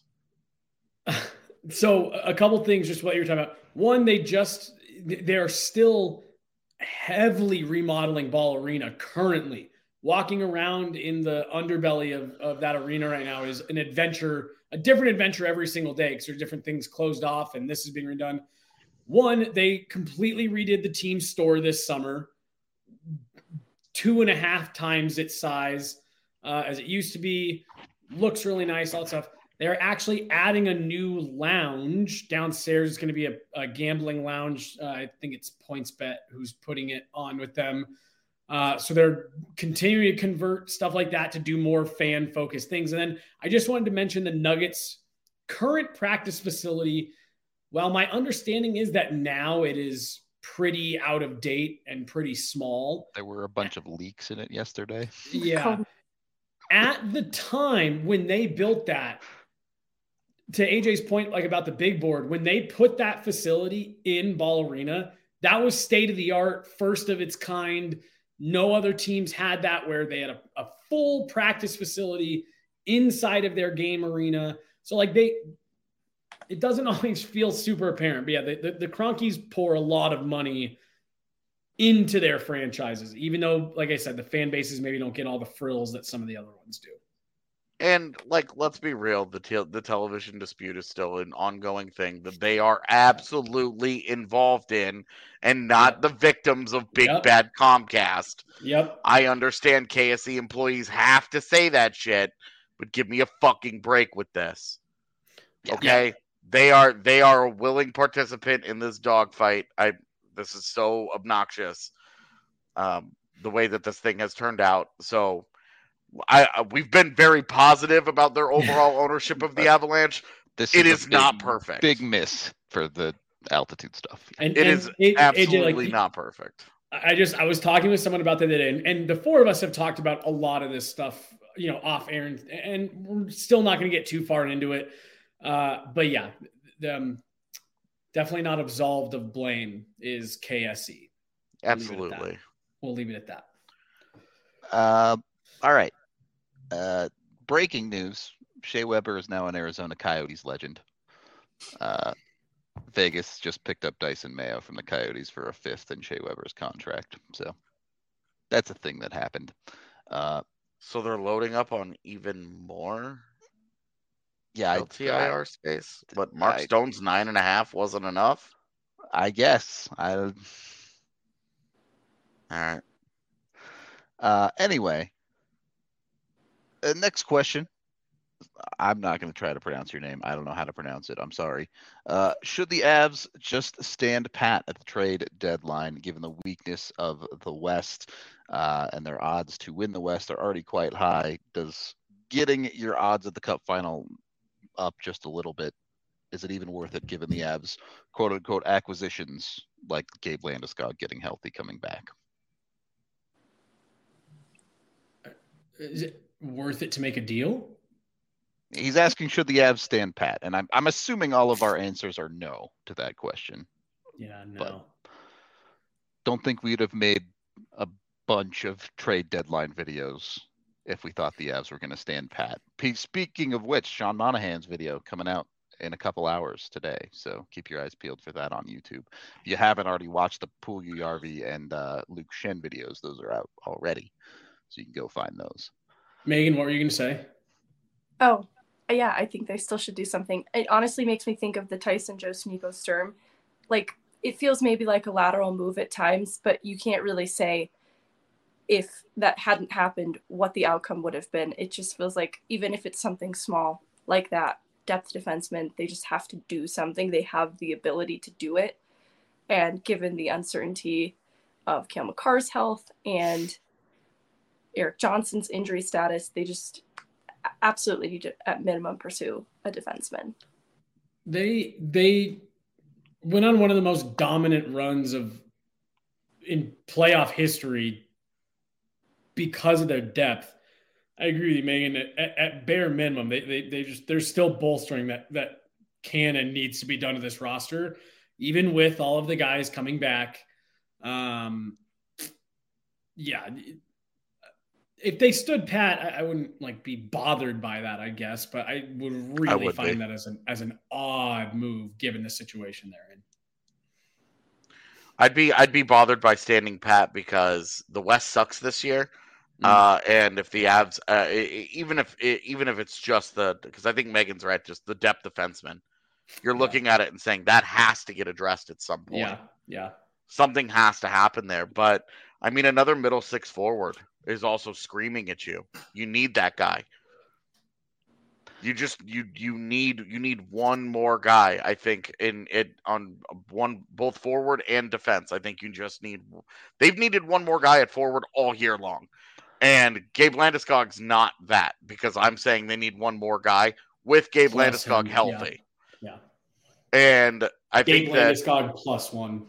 So a couple things, just what you're talking about. One, they just they're still heavily remodeling Ball Arena currently. Walking around in the underbelly of, of that arena right now is an adventure, a different adventure every single day, because there's different things closed off and this is being redone. One, they completely redid the team store this summer, two and a half times its size uh, as it used to be. Looks really nice, all that stuff. They're actually adding a new lounge downstairs. It's going to be a, a gambling lounge. Uh, I think it's PointsBet who's putting it on with them. Uh, so they're continuing to convert stuff like that to do more fan-focused things. And then I just wanted to mention the Nuggets' current practice facility. Well, my understanding is that now it is pretty out of date and pretty small. There were a bunch of leaks in it yesterday. Yeah. At the time when they built that, to A J's point, like about the big board, when they put that facility in Ball Arena, that was state of the art, first of its kind. No other teams had that, where they had a, a full practice facility inside of their game arena. So like they, it doesn't always feel super apparent, but yeah, the, the, the Cronkies pour a lot of money into their franchises, even though, like I said, the fan bases maybe don't get all the frills that some of the other ones do. And like, let's be real, the te- the television dispute is still an ongoing thing that they are absolutely involved in, and not Yep. the victims of big Yep. bad Comcast. Yep. I understand K S E employees have to say that shit, but give me a fucking break with this. Yeah. Okay? They are they are a willing participant in this dogfight. I this is so obnoxious. Um, the way that this thing has turned out. So I, I we've been very positive about their overall ownership of the Avalanche. This It is, is a not big- perfect. Big miss for the altitude stuff. And It and is A J, absolutely like, not perfect. I just I was talking with someone about that today, and, and the four of us have talked about a lot of this stuff, you know, off air, and, and we're still not going to get too far into it. Uh, but yeah, the, um, definitely not absolved of blame is K S E. We'll leave it at that. Absolutely. We'll leave it at that. Uh, all right. Uh, breaking news: Shea Weber is now an Arizona Coyotes legend. Uh, Vegas just picked up Dyson Mayo from the Coyotes for a fifth in Shea Weber's contract. So that's a thing that happened. Uh, So they're loading up on even more yeah, L T I R space. But Mark I- Stone's nine and a half wasn't enough. I, I guess. I. All right. Uh, anyway, uh, next question. I'm not going to try to pronounce your name. I don't know how to pronounce it. I'm sorry. Uh, should the Avs just stand pat at the trade deadline, given the weakness of the West uh, and their odds to win the West are already quite high? Does getting your odds at the Cup final up just a little bit, is it even worth it given the Avs quote unquote acquisitions like Gabe Landeskog getting healthy coming back? Is it worth it to make a deal? He's asking, should the Avs stand pat? And I'm I'm assuming all of our answers are no to that question. Yeah, no. But don't think we'd have made a bunch of trade deadline videos if we thought the Avs were going to stand pat. Speaking of which, Sean Monahan's video coming out in a couple hours today, so keep your eyes peeled for that on YouTube. If you haven't already watched the Puljujarvi and uh, Luke Shen videos, those are out already, so you can go find those. Megan, what were you going to say? Oh, yeah, I think they still should do something. It honestly makes me think of the Tyson Jost Nico Sturm. Like, it feels maybe like a lateral move at times, but you can't really say if that hadn't happened, what the outcome would have been. It just feels like even if it's something small like that, depth defenseman, they just have to do something. They have the ability to do it. And given the uncertainty of Cale Makar's health and Erik Johnson's injury status, they just absolutely need to, at minimum, pursue a defenseman. They they went on one of the most dominant runs of in playoff history because of their depth. I agree with you, Megan. At, at bare minimum, they they they just they're still bolstering that that can and needs to be done to this roster, even with all of the guys coming back. Um, yeah. If they stood pat, I, I wouldn't like be bothered by that, I guess, but I would really I would find be. that as an as an odd move given the situation they're in. I'd be I'd be bothered by standing pat because the West sucks this year, mm. uh, and if the Avs, uh, even if even if it's just the because I think Megan's right, just the depth defenseman, you're yeah. looking at it and saying that has to get addressed at some point. Yeah, yeah, something has to happen there. But I mean, another middle six forward is also screaming at you. You need that guy. You just you you need you need one more guy. I think in it on one both forward and defense. I think you just need. They've needed one more guy at forward all year long, and Gabe Landeskog's not that because I'm saying they need one more guy with Gabe plus Landeskog him. healthy. Yeah. yeah, and I Gabe think Landeskog that, plus one.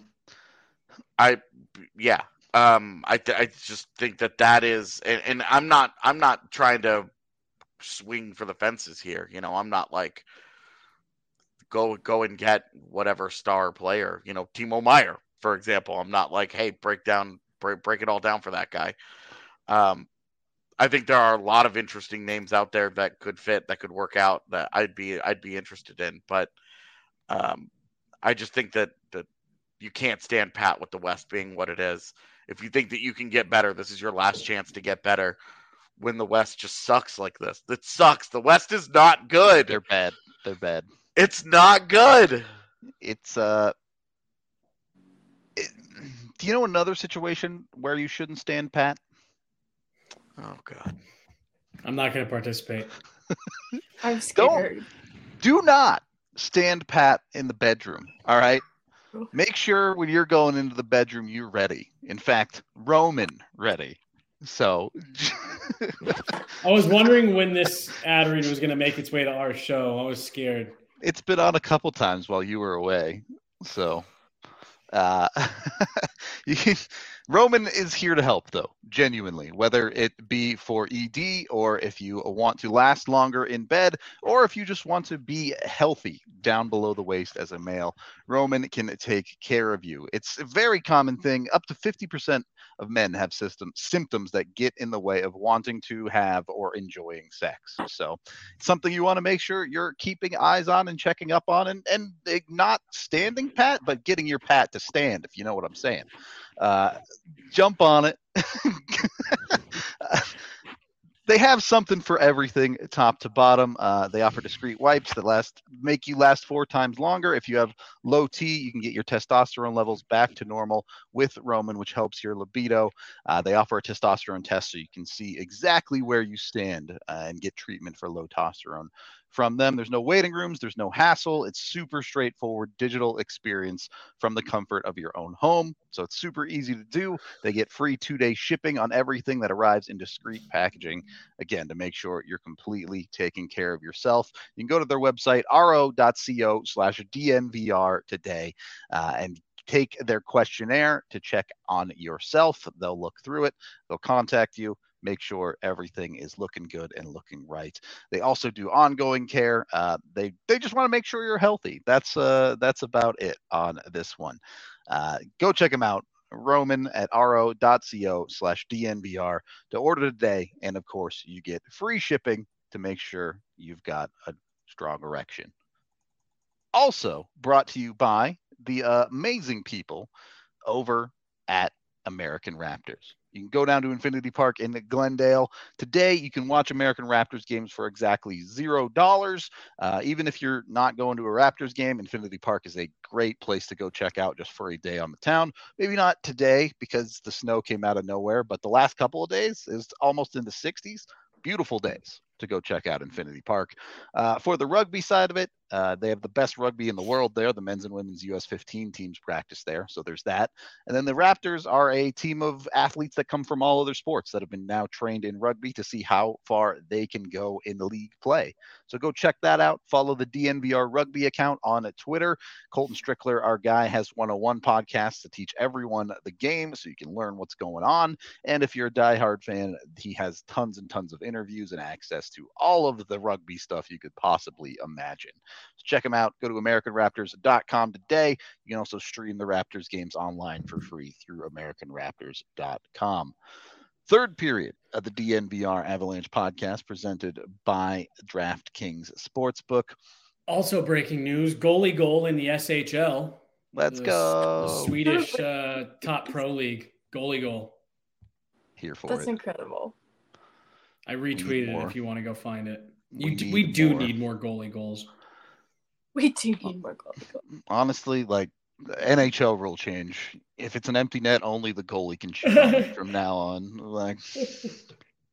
I yeah. Um, I th- I just think that that is, and, and I'm not I'm not trying to swing for the fences here. You know, I'm not like go go and get whatever star player. You know, Timo Meier, for example. I'm not like, hey, break down break break it all down for that guy. Um, I think there are a lot of interesting names out there that could fit, that could work out, that I'd be I'd be interested in. But um, I just think that that you can't stand pat with the West being what it is. If you think that you can get better, this is your last chance to get better when the West just sucks like this. It sucks. The West is not good. They're bad. They're bad. It's not good. It's, uh, it, do you know another situation where you shouldn't stand pat? Oh, God. I'm not going to participate. I'm scared. Don't, do not stand pat in the bedroom, all right? Make sure when you're going into the bedroom, you're ready. In fact, Roman ready. So I was wondering when this ad read was going to make its way to our show. I was scared. It's been on a couple times while you were away. So uh, you can, Roman is here to help, though, genuinely, whether it be for E D or if you want to last longer in bed or if you just want to be healthy down below the waist as a male. Roman can take care of you. It's a very common thing. Up to fifty percent of men have system, symptoms that get in the way of wanting to have or enjoying sex. So it's something you want to make sure you're keeping eyes on and checking up on, and, and not standing pat, but getting your pat to stand, if you know what I'm saying. Uh, jump on it. they have something for everything, top to bottom. Uh, they offer discreet wipes that last make you last four times longer. If you have low T, you can get your testosterone levels back to normal with Roman, which helps your libido. Uh, they offer a testosterone test so you can see exactly where you stand uh, and get treatment for low testosterone from them. There's no waiting rooms. There's no hassle. It's super straightforward digital experience from the comfort of your own home. So it's super easy to do. They get free two-day shipping on everything that arrives in discreet packaging. Again, to make sure you're completely taking care of yourself. You can go to their website, ro.co slash DNVR today uh, and take their questionnaire to check on yourself. They'll look through it. They'll contact you. Make sure everything is looking good and looking right. They also do ongoing care. Uh, they they just want to make sure you're healthy. That's uh that's about it on this one. Uh, go check them out. Roman at ro.co slash DNVR to order today. And of course, you get free shipping to make sure you've got a strong erection. Also brought to you by the uh, amazing people over at American Raptors. You can go down to Infinity Park in Glendale. Today, you can watch American Raptors games for exactly zero dollars. Uh, even if you're not going to a Raptors game, Infinity Park is a great place to go check out just for a day on the town. Maybe not today because the snow came out of nowhere, but the last couple of days is almost in the sixties. Beautiful days to go check out Infinity Park. Uh, for the rugby side of it, uh, they have the best rugby in the world there. The men's and women's U S fifteen teams practice there, so there's that. And then the Raptors are a team of athletes that come from all other sports that have been now trained in rugby to see how far they can go in the league play. So go check that out. Follow the D N V R Rugby account on Twitter. Colton Strickler, our guy, has one oh one podcasts to teach everyone the game so you can learn what's going on. And if you're a diehard fan, he has tons and tons of interviews and access to all of the rugby stuff you could possibly imagine. So check them out. Go to American Raptors dot com today. You can also stream the Raptors games online for free through American Raptors dot com. Third period of the D N V R Avalanche podcast presented by DraftKings Sportsbook. Also breaking news, goalie goal in the S H L. Let's the, go. The Swedish uh, top pro league. Goalie goal. Here for That's it. That's incredible. I retweeted it if you want to go find it. You we, do, need we do more. need more goalie goals. We do need more goalie goals. Honestly, like the N H L rule change. If it's an empty net, only the goalie can shoot on it from now on. Like that's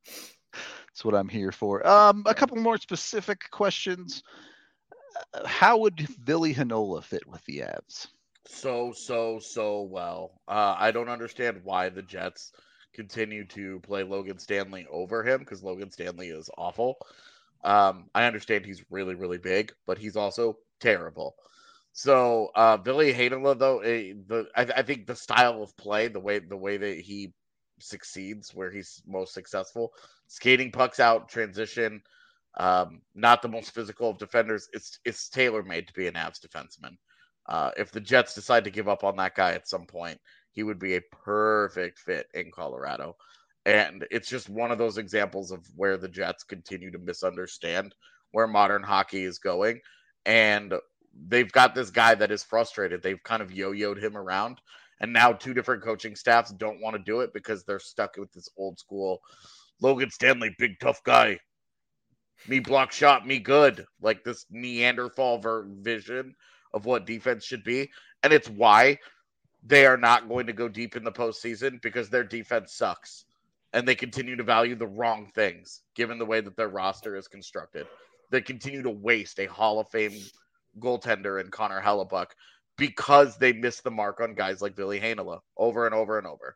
what I'm here for. Um, a couple more specific questions. Uh, how would Ville Heinola fit with the Avs? So, so, so well. Uh, I don't understand why the Jets continue to play Logan Stanley over him because Logan Stanley is awful. Um, I understand he's really, really big, but he's also terrible. So, uh, Ville Heinola, though, eh, the I, I think the style of play, the way the way that he succeeds, where he's most successful, skating pucks out, transition, um, not the most physical of defenders. It's it's tailor made to be an Avs defenseman. Uh, if the Jets decide to give up on that guy at some point, he would be a perfect fit in Colorado. And it's just one of those examples of where the Jets continue to misunderstand where modern hockey is going. And they've got this guy that is frustrated. They've kind of yo-yoed him around. And now two different coaching staffs don't want to do it because they're stuck with this old school Logan Stanley, big tough guy. Me block shot, me good. Like this Neanderthal vision of what defense should be. And it's why they are not going to go deep in the postseason because their defense sucks. And they continue to value the wrong things, given the way that their roster is constructed. They continue to waste a Hall of Fame goaltender in Connor Hellebuyck because they miss the mark on guys like Ville Heinola over and over and over.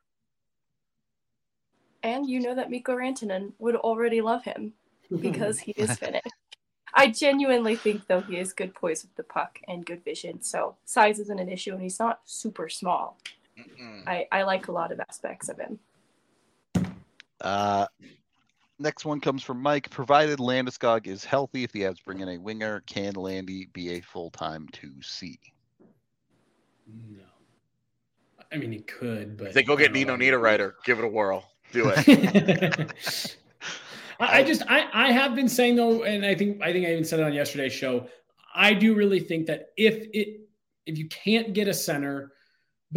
And you know that Mikko Rantanen would already love him because he is Finnish. I genuinely think, though, he has good poise with the puck and good vision. So size isn't an issue, and he's not super small. I, I like a lot of aspects of him. Uh, next one comes from Mike. Provided Landeskog is healthy, if the Avs bring in a winger, can Landy be a full-time two C? No. I mean, he could, but... If they go get Nino Niederreiter, give it a whirl. Do it. I just I, I have been saying though, and I think I think I even said it on yesterday's show. I do really think that if it if you can't get a center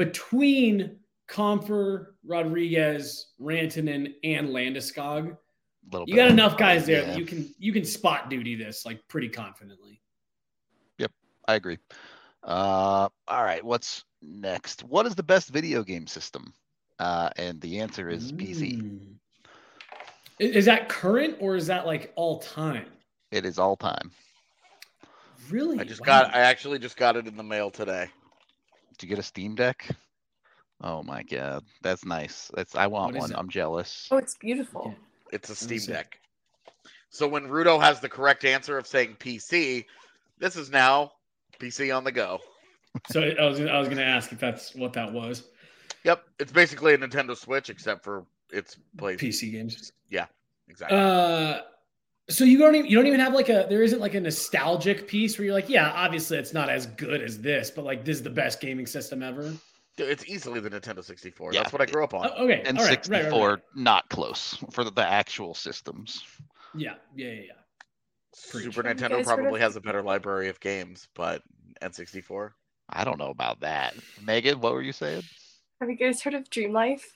between Compher, Rodriguez, Rantanen, and Landeskog, little. You bit got of- enough guys there yeah. that you can you can spot duty this like pretty confidently. Yep, I agree. Uh, all right, what's next? What is the best video game system? Uh, and the answer is P C. Mm. Is is that current or is that like all time? It is all time. Really? I just Wow. got. I actually just got it in the mail today. Did you get a Steam Deck? Oh my god, that's nice. That's I want What is one. it? I'm jealous. Oh, it's beautiful. It's a me Steam see. Deck. So when Rudo has the correct answer of saying P C, this is now P C on the go. So I was I was gonna ask if that's what that was. Yep, it's basically a Nintendo Switch except for it's plays. P C games. Yeah, exactly. Uh, so you don't even you don't even have like a there isn't like a nostalgic piece where you're like, yeah, obviously it's not as good as this, but like this is the best gaming system ever. It's easily the Nintendo sixty-four. Yeah. That's what I grew up on. Oh, okay, And all right, sixty-four, right, right, right. not close for the, the actual systems. Yeah, yeah, yeah, yeah. Preach. Super Have you Nintendo guys heard probably of- has a better library of games, but N sixty-four. I don't know about that. Megan, what were you saying? Have you guys heard of Dream Life?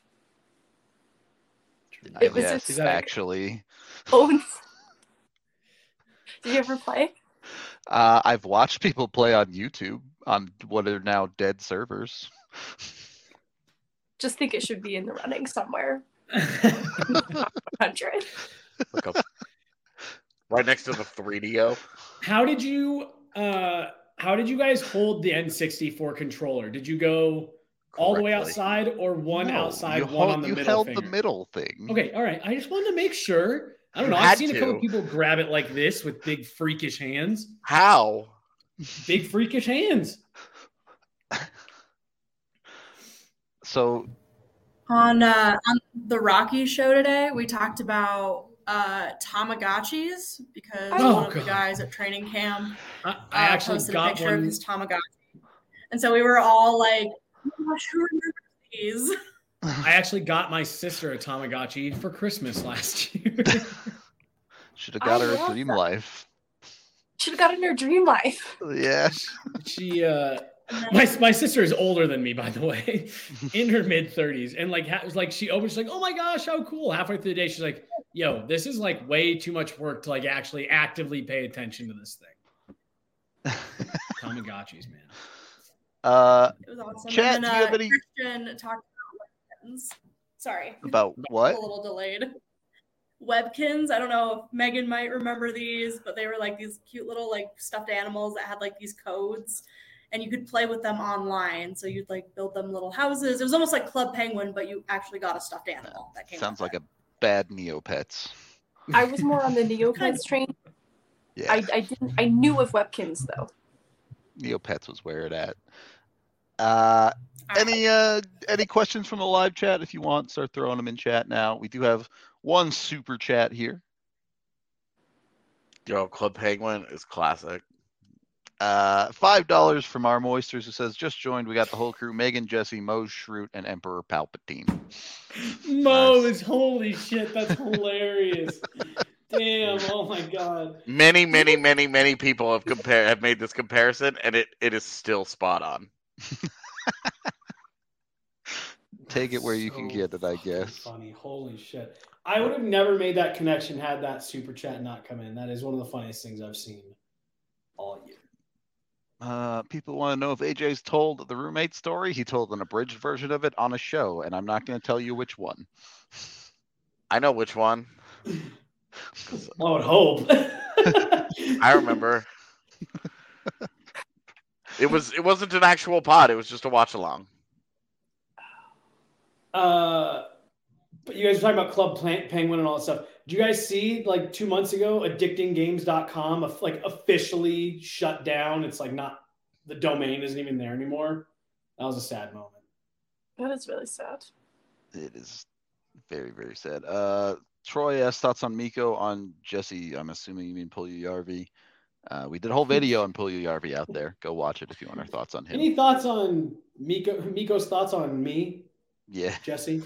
Uh, It was yes, just- Is that- actually. Oh, did you ever play? Uh, I've watched people play on YouTube on what are now dead servers. Just think it should be in the running somewhere. one hundred. Look up. Right next to the three D O. How did you uh how did you guys hold the N sixty-four controller? Did you go all the way Correctly. outside or one No, outside, you one hold- on the you middle held finger? the middle thing. Okay, all right. I just wanted to make sure. I don't You know. I've had seen a couple to. people grab it like this with big freakish hands. How? Big freakish hands. So On uh, on the Rocky show today, we talked about uh, Tamagotchis because Oh, one of the God. guys at training camp I, uh, I actually posted a got picture of one. his Tamagotchi, and so we were all like, "Oh my gosh, who remembers these?" I actually got my sister a Tamagotchi for Christmas last year. should have got I her a love Dream that. Life. Should have gotten her Dream Life. Yeah. she uh And then- my my sister is older than me, by the way, in her mid thirties, and like ha- was like she opens, she's like, "Oh my gosh, how cool!" Halfway through the day, she's like, "Yo, this is like way too much work to like actually actively pay attention to this thing." Tamagotchis, man. Uh, It was awesome. Chat, and do then, you uh, have any- Christian talked about Webkins. Sorry, about what? a little delayed. Webkins. I don't know if Megan might remember these, but they were like these cute little like stuffed animals that had like these codes, and you could play with them online. So you'd like build them little houses. It was almost like Club Penguin, but you actually got a stuffed animal that came. Sounds with like it. a bad Neopets. I was more on the Neopets train. Yeah, I, I didn't. I knew of Webkins though. Neopets was where it at. Uh, All right. any uh, any questions from the live chat? If you want, start throwing them in chat now. We do have one super chat here. Yo, Club Penguin is classic. Uh, five dollars from our Moisters, who says, "Just joined. We got the whole crew: Megan, Jesse, Mo, Shroot, and Emperor Palpatine." Mo Nice. is holy shit. That's hilarious. Damn. Oh my god. Many, many, many, many people have compare have made this comparison, and it, it is still spot on. Take it where you can So get it, I fucking guess. Funny. Holy shit. I would have never made that connection had that super chat not come in. That is one of the funniest things I've seen all year. Uh, people want to know if A J's told the roommate story. He told an abridged version of it on a show, and I'm not going to tell you which one. I know which one. I would hope. I remember. It was it wasn't an actual pod. It was just a watch along. Uh, but you guys were talking about Club Plant Penguin and all that stuff. Did you guys see like two months ago, addicting games dot com of- like officially shut down? It's like not the domain isn't even there anymore. That was a sad moment. That is really sad. It is very, very sad. Uh, Troy asked thoughts on Miko on Jesse. I'm assuming you mean Pull U R V. Uh, we did a whole video on Pull U R V out there. Go watch it if you want our thoughts on him. Any thoughts on Miko? Miko's thoughts on me, Yeah. Jesse?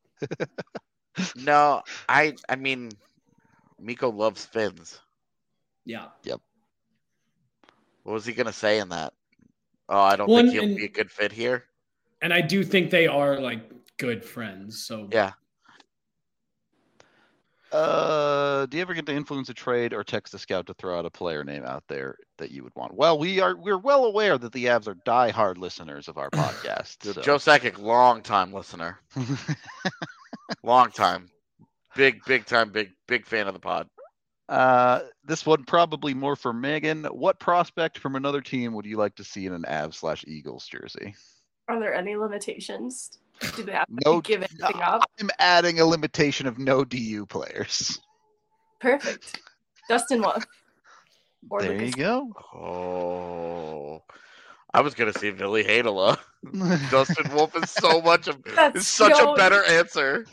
No, I I mean, Miko loves fins. Yeah. What was he gonna say in that? Oh, I don't Well, think and- he'll and- be a good fit here. And I do think they are like good friends. So Yeah. Uh, do you ever get to influence a trade or text a scout to throw out a player name out there that you would want? Well, we are we're well aware that the Avs are diehard listeners of our podcast. so. Joe Sakic, long time listener, long time, big big time, big big fan of the pod. Uh, this one probably more for Megan. What prospect from another team would you like to see in an Avs slash Eagles jersey? Are there any limitations? Do they have to No, give anything up? I'm adding a limitation of no D U players. Perfect. Dustin Wolf. Or There Lucas. you go. Oh, I was gonna say Billy Hadela. Dustin Wolf is so much of That's is such so- a better answer.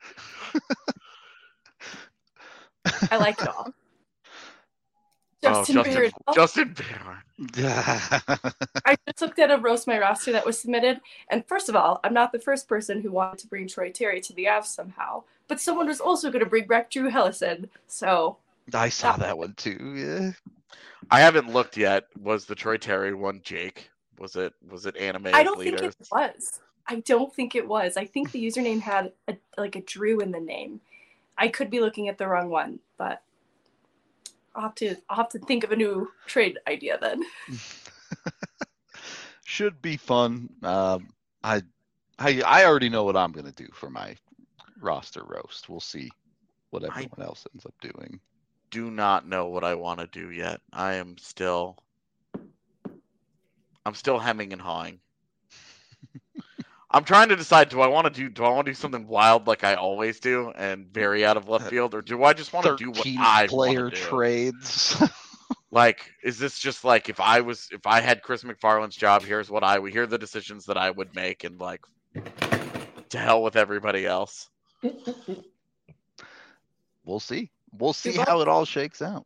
I like it all. Oh, Justin Justin, Beard. Oh, Justin Beard. I just looked at a roast my roster that was submitted, and first of all, I'm not the first person who wanted to bring Troy Terry to the Avs somehow, but someone was also going to bring back Drew Hellison. So I saw that one too. Yeah. I haven't looked yet. Was the Troy Terry one Jake? Was it was it animated I don't leaders? think it was. I don't think it was. I think the username had a, like a Drew in the name. I could be looking at the wrong one, but I'll have to I'll have to think of a new trade idea then. Should be fun. Um, I, I I already know what I'm gonna do for my roster roast. We'll see what I- everyone else ends up doing. Do not know what I want to do yet. I am still I'm still hemming and hawing. I'm trying to decide, do I want to do do I want to do something wild like I always do and very out of left field, or do I just want to do what thirteen I player want to do? trades. Like, is this just like if I was if I had Chris McFarland's job, here's what I would here are the decisions that I would make, and like to hell with everybody else. We'll see. We'll see luck. how it all shakes out.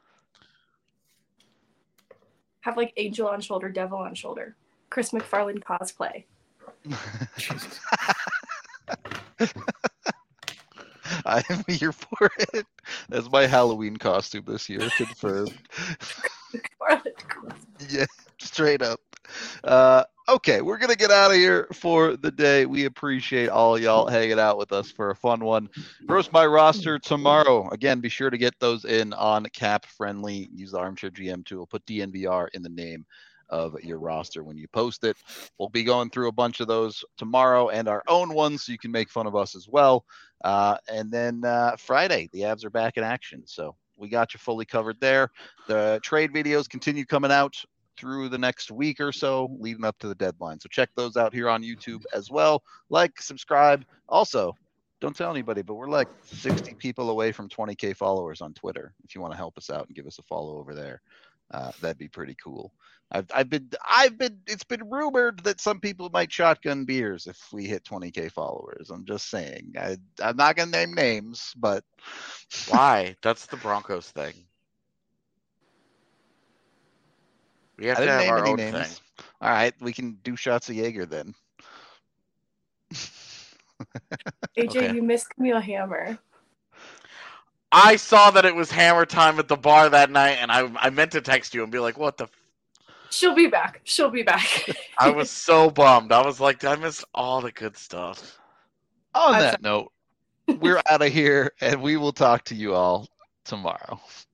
Have like angel on shoulder, devil on shoulder. Chris McFarland cosplay. I am here for it. That's my Halloween costume this year, confirmed. McFarland cosplay. Yeah, straight up. Uh, okay, we're gonna get out of here for the day. We appreciate all y'all hanging out with us for a fun one. Roast my roster tomorrow. Again, be sure to get those in on Cap Friendly. Use the Armchair G M tool. Put D N V R in the name of your roster when you post it. We'll be going through a bunch of those tomorrow and our own ones, so you can make fun of us as well. Uh, and then uh, Friday, the Avs are back in action, so we got you fully covered there. The trade videos continue coming out through the next week or so, leading up to the deadline. So check those out here on YouTube as well. Like, subscribe. Also, don't tell anybody, but we're like sixty people away from twenty K followers on Twitter. If you want to help us out and give us a follow over there, uh, that'd be pretty cool. I've, I've been, I've been, it's been rumored that some people might shotgun beers if we hit twenty K followers. I'm just saying. I, I'm not gonna name names, but Why? That's the Broncos thing. We have I to didn't have name our any own names. thing. All right, we can do shots of Jaeger then. A J, Okay. you missed Camille Hammer. I saw that it was hammer time at the bar that night, and I I meant to text you and be like, "What the?" F-? She'll be back. She'll be back. I was so bummed. I was like, "I missed all the good stuff." On I'm that note, we're out of here, and we will talk to you all tomorrow.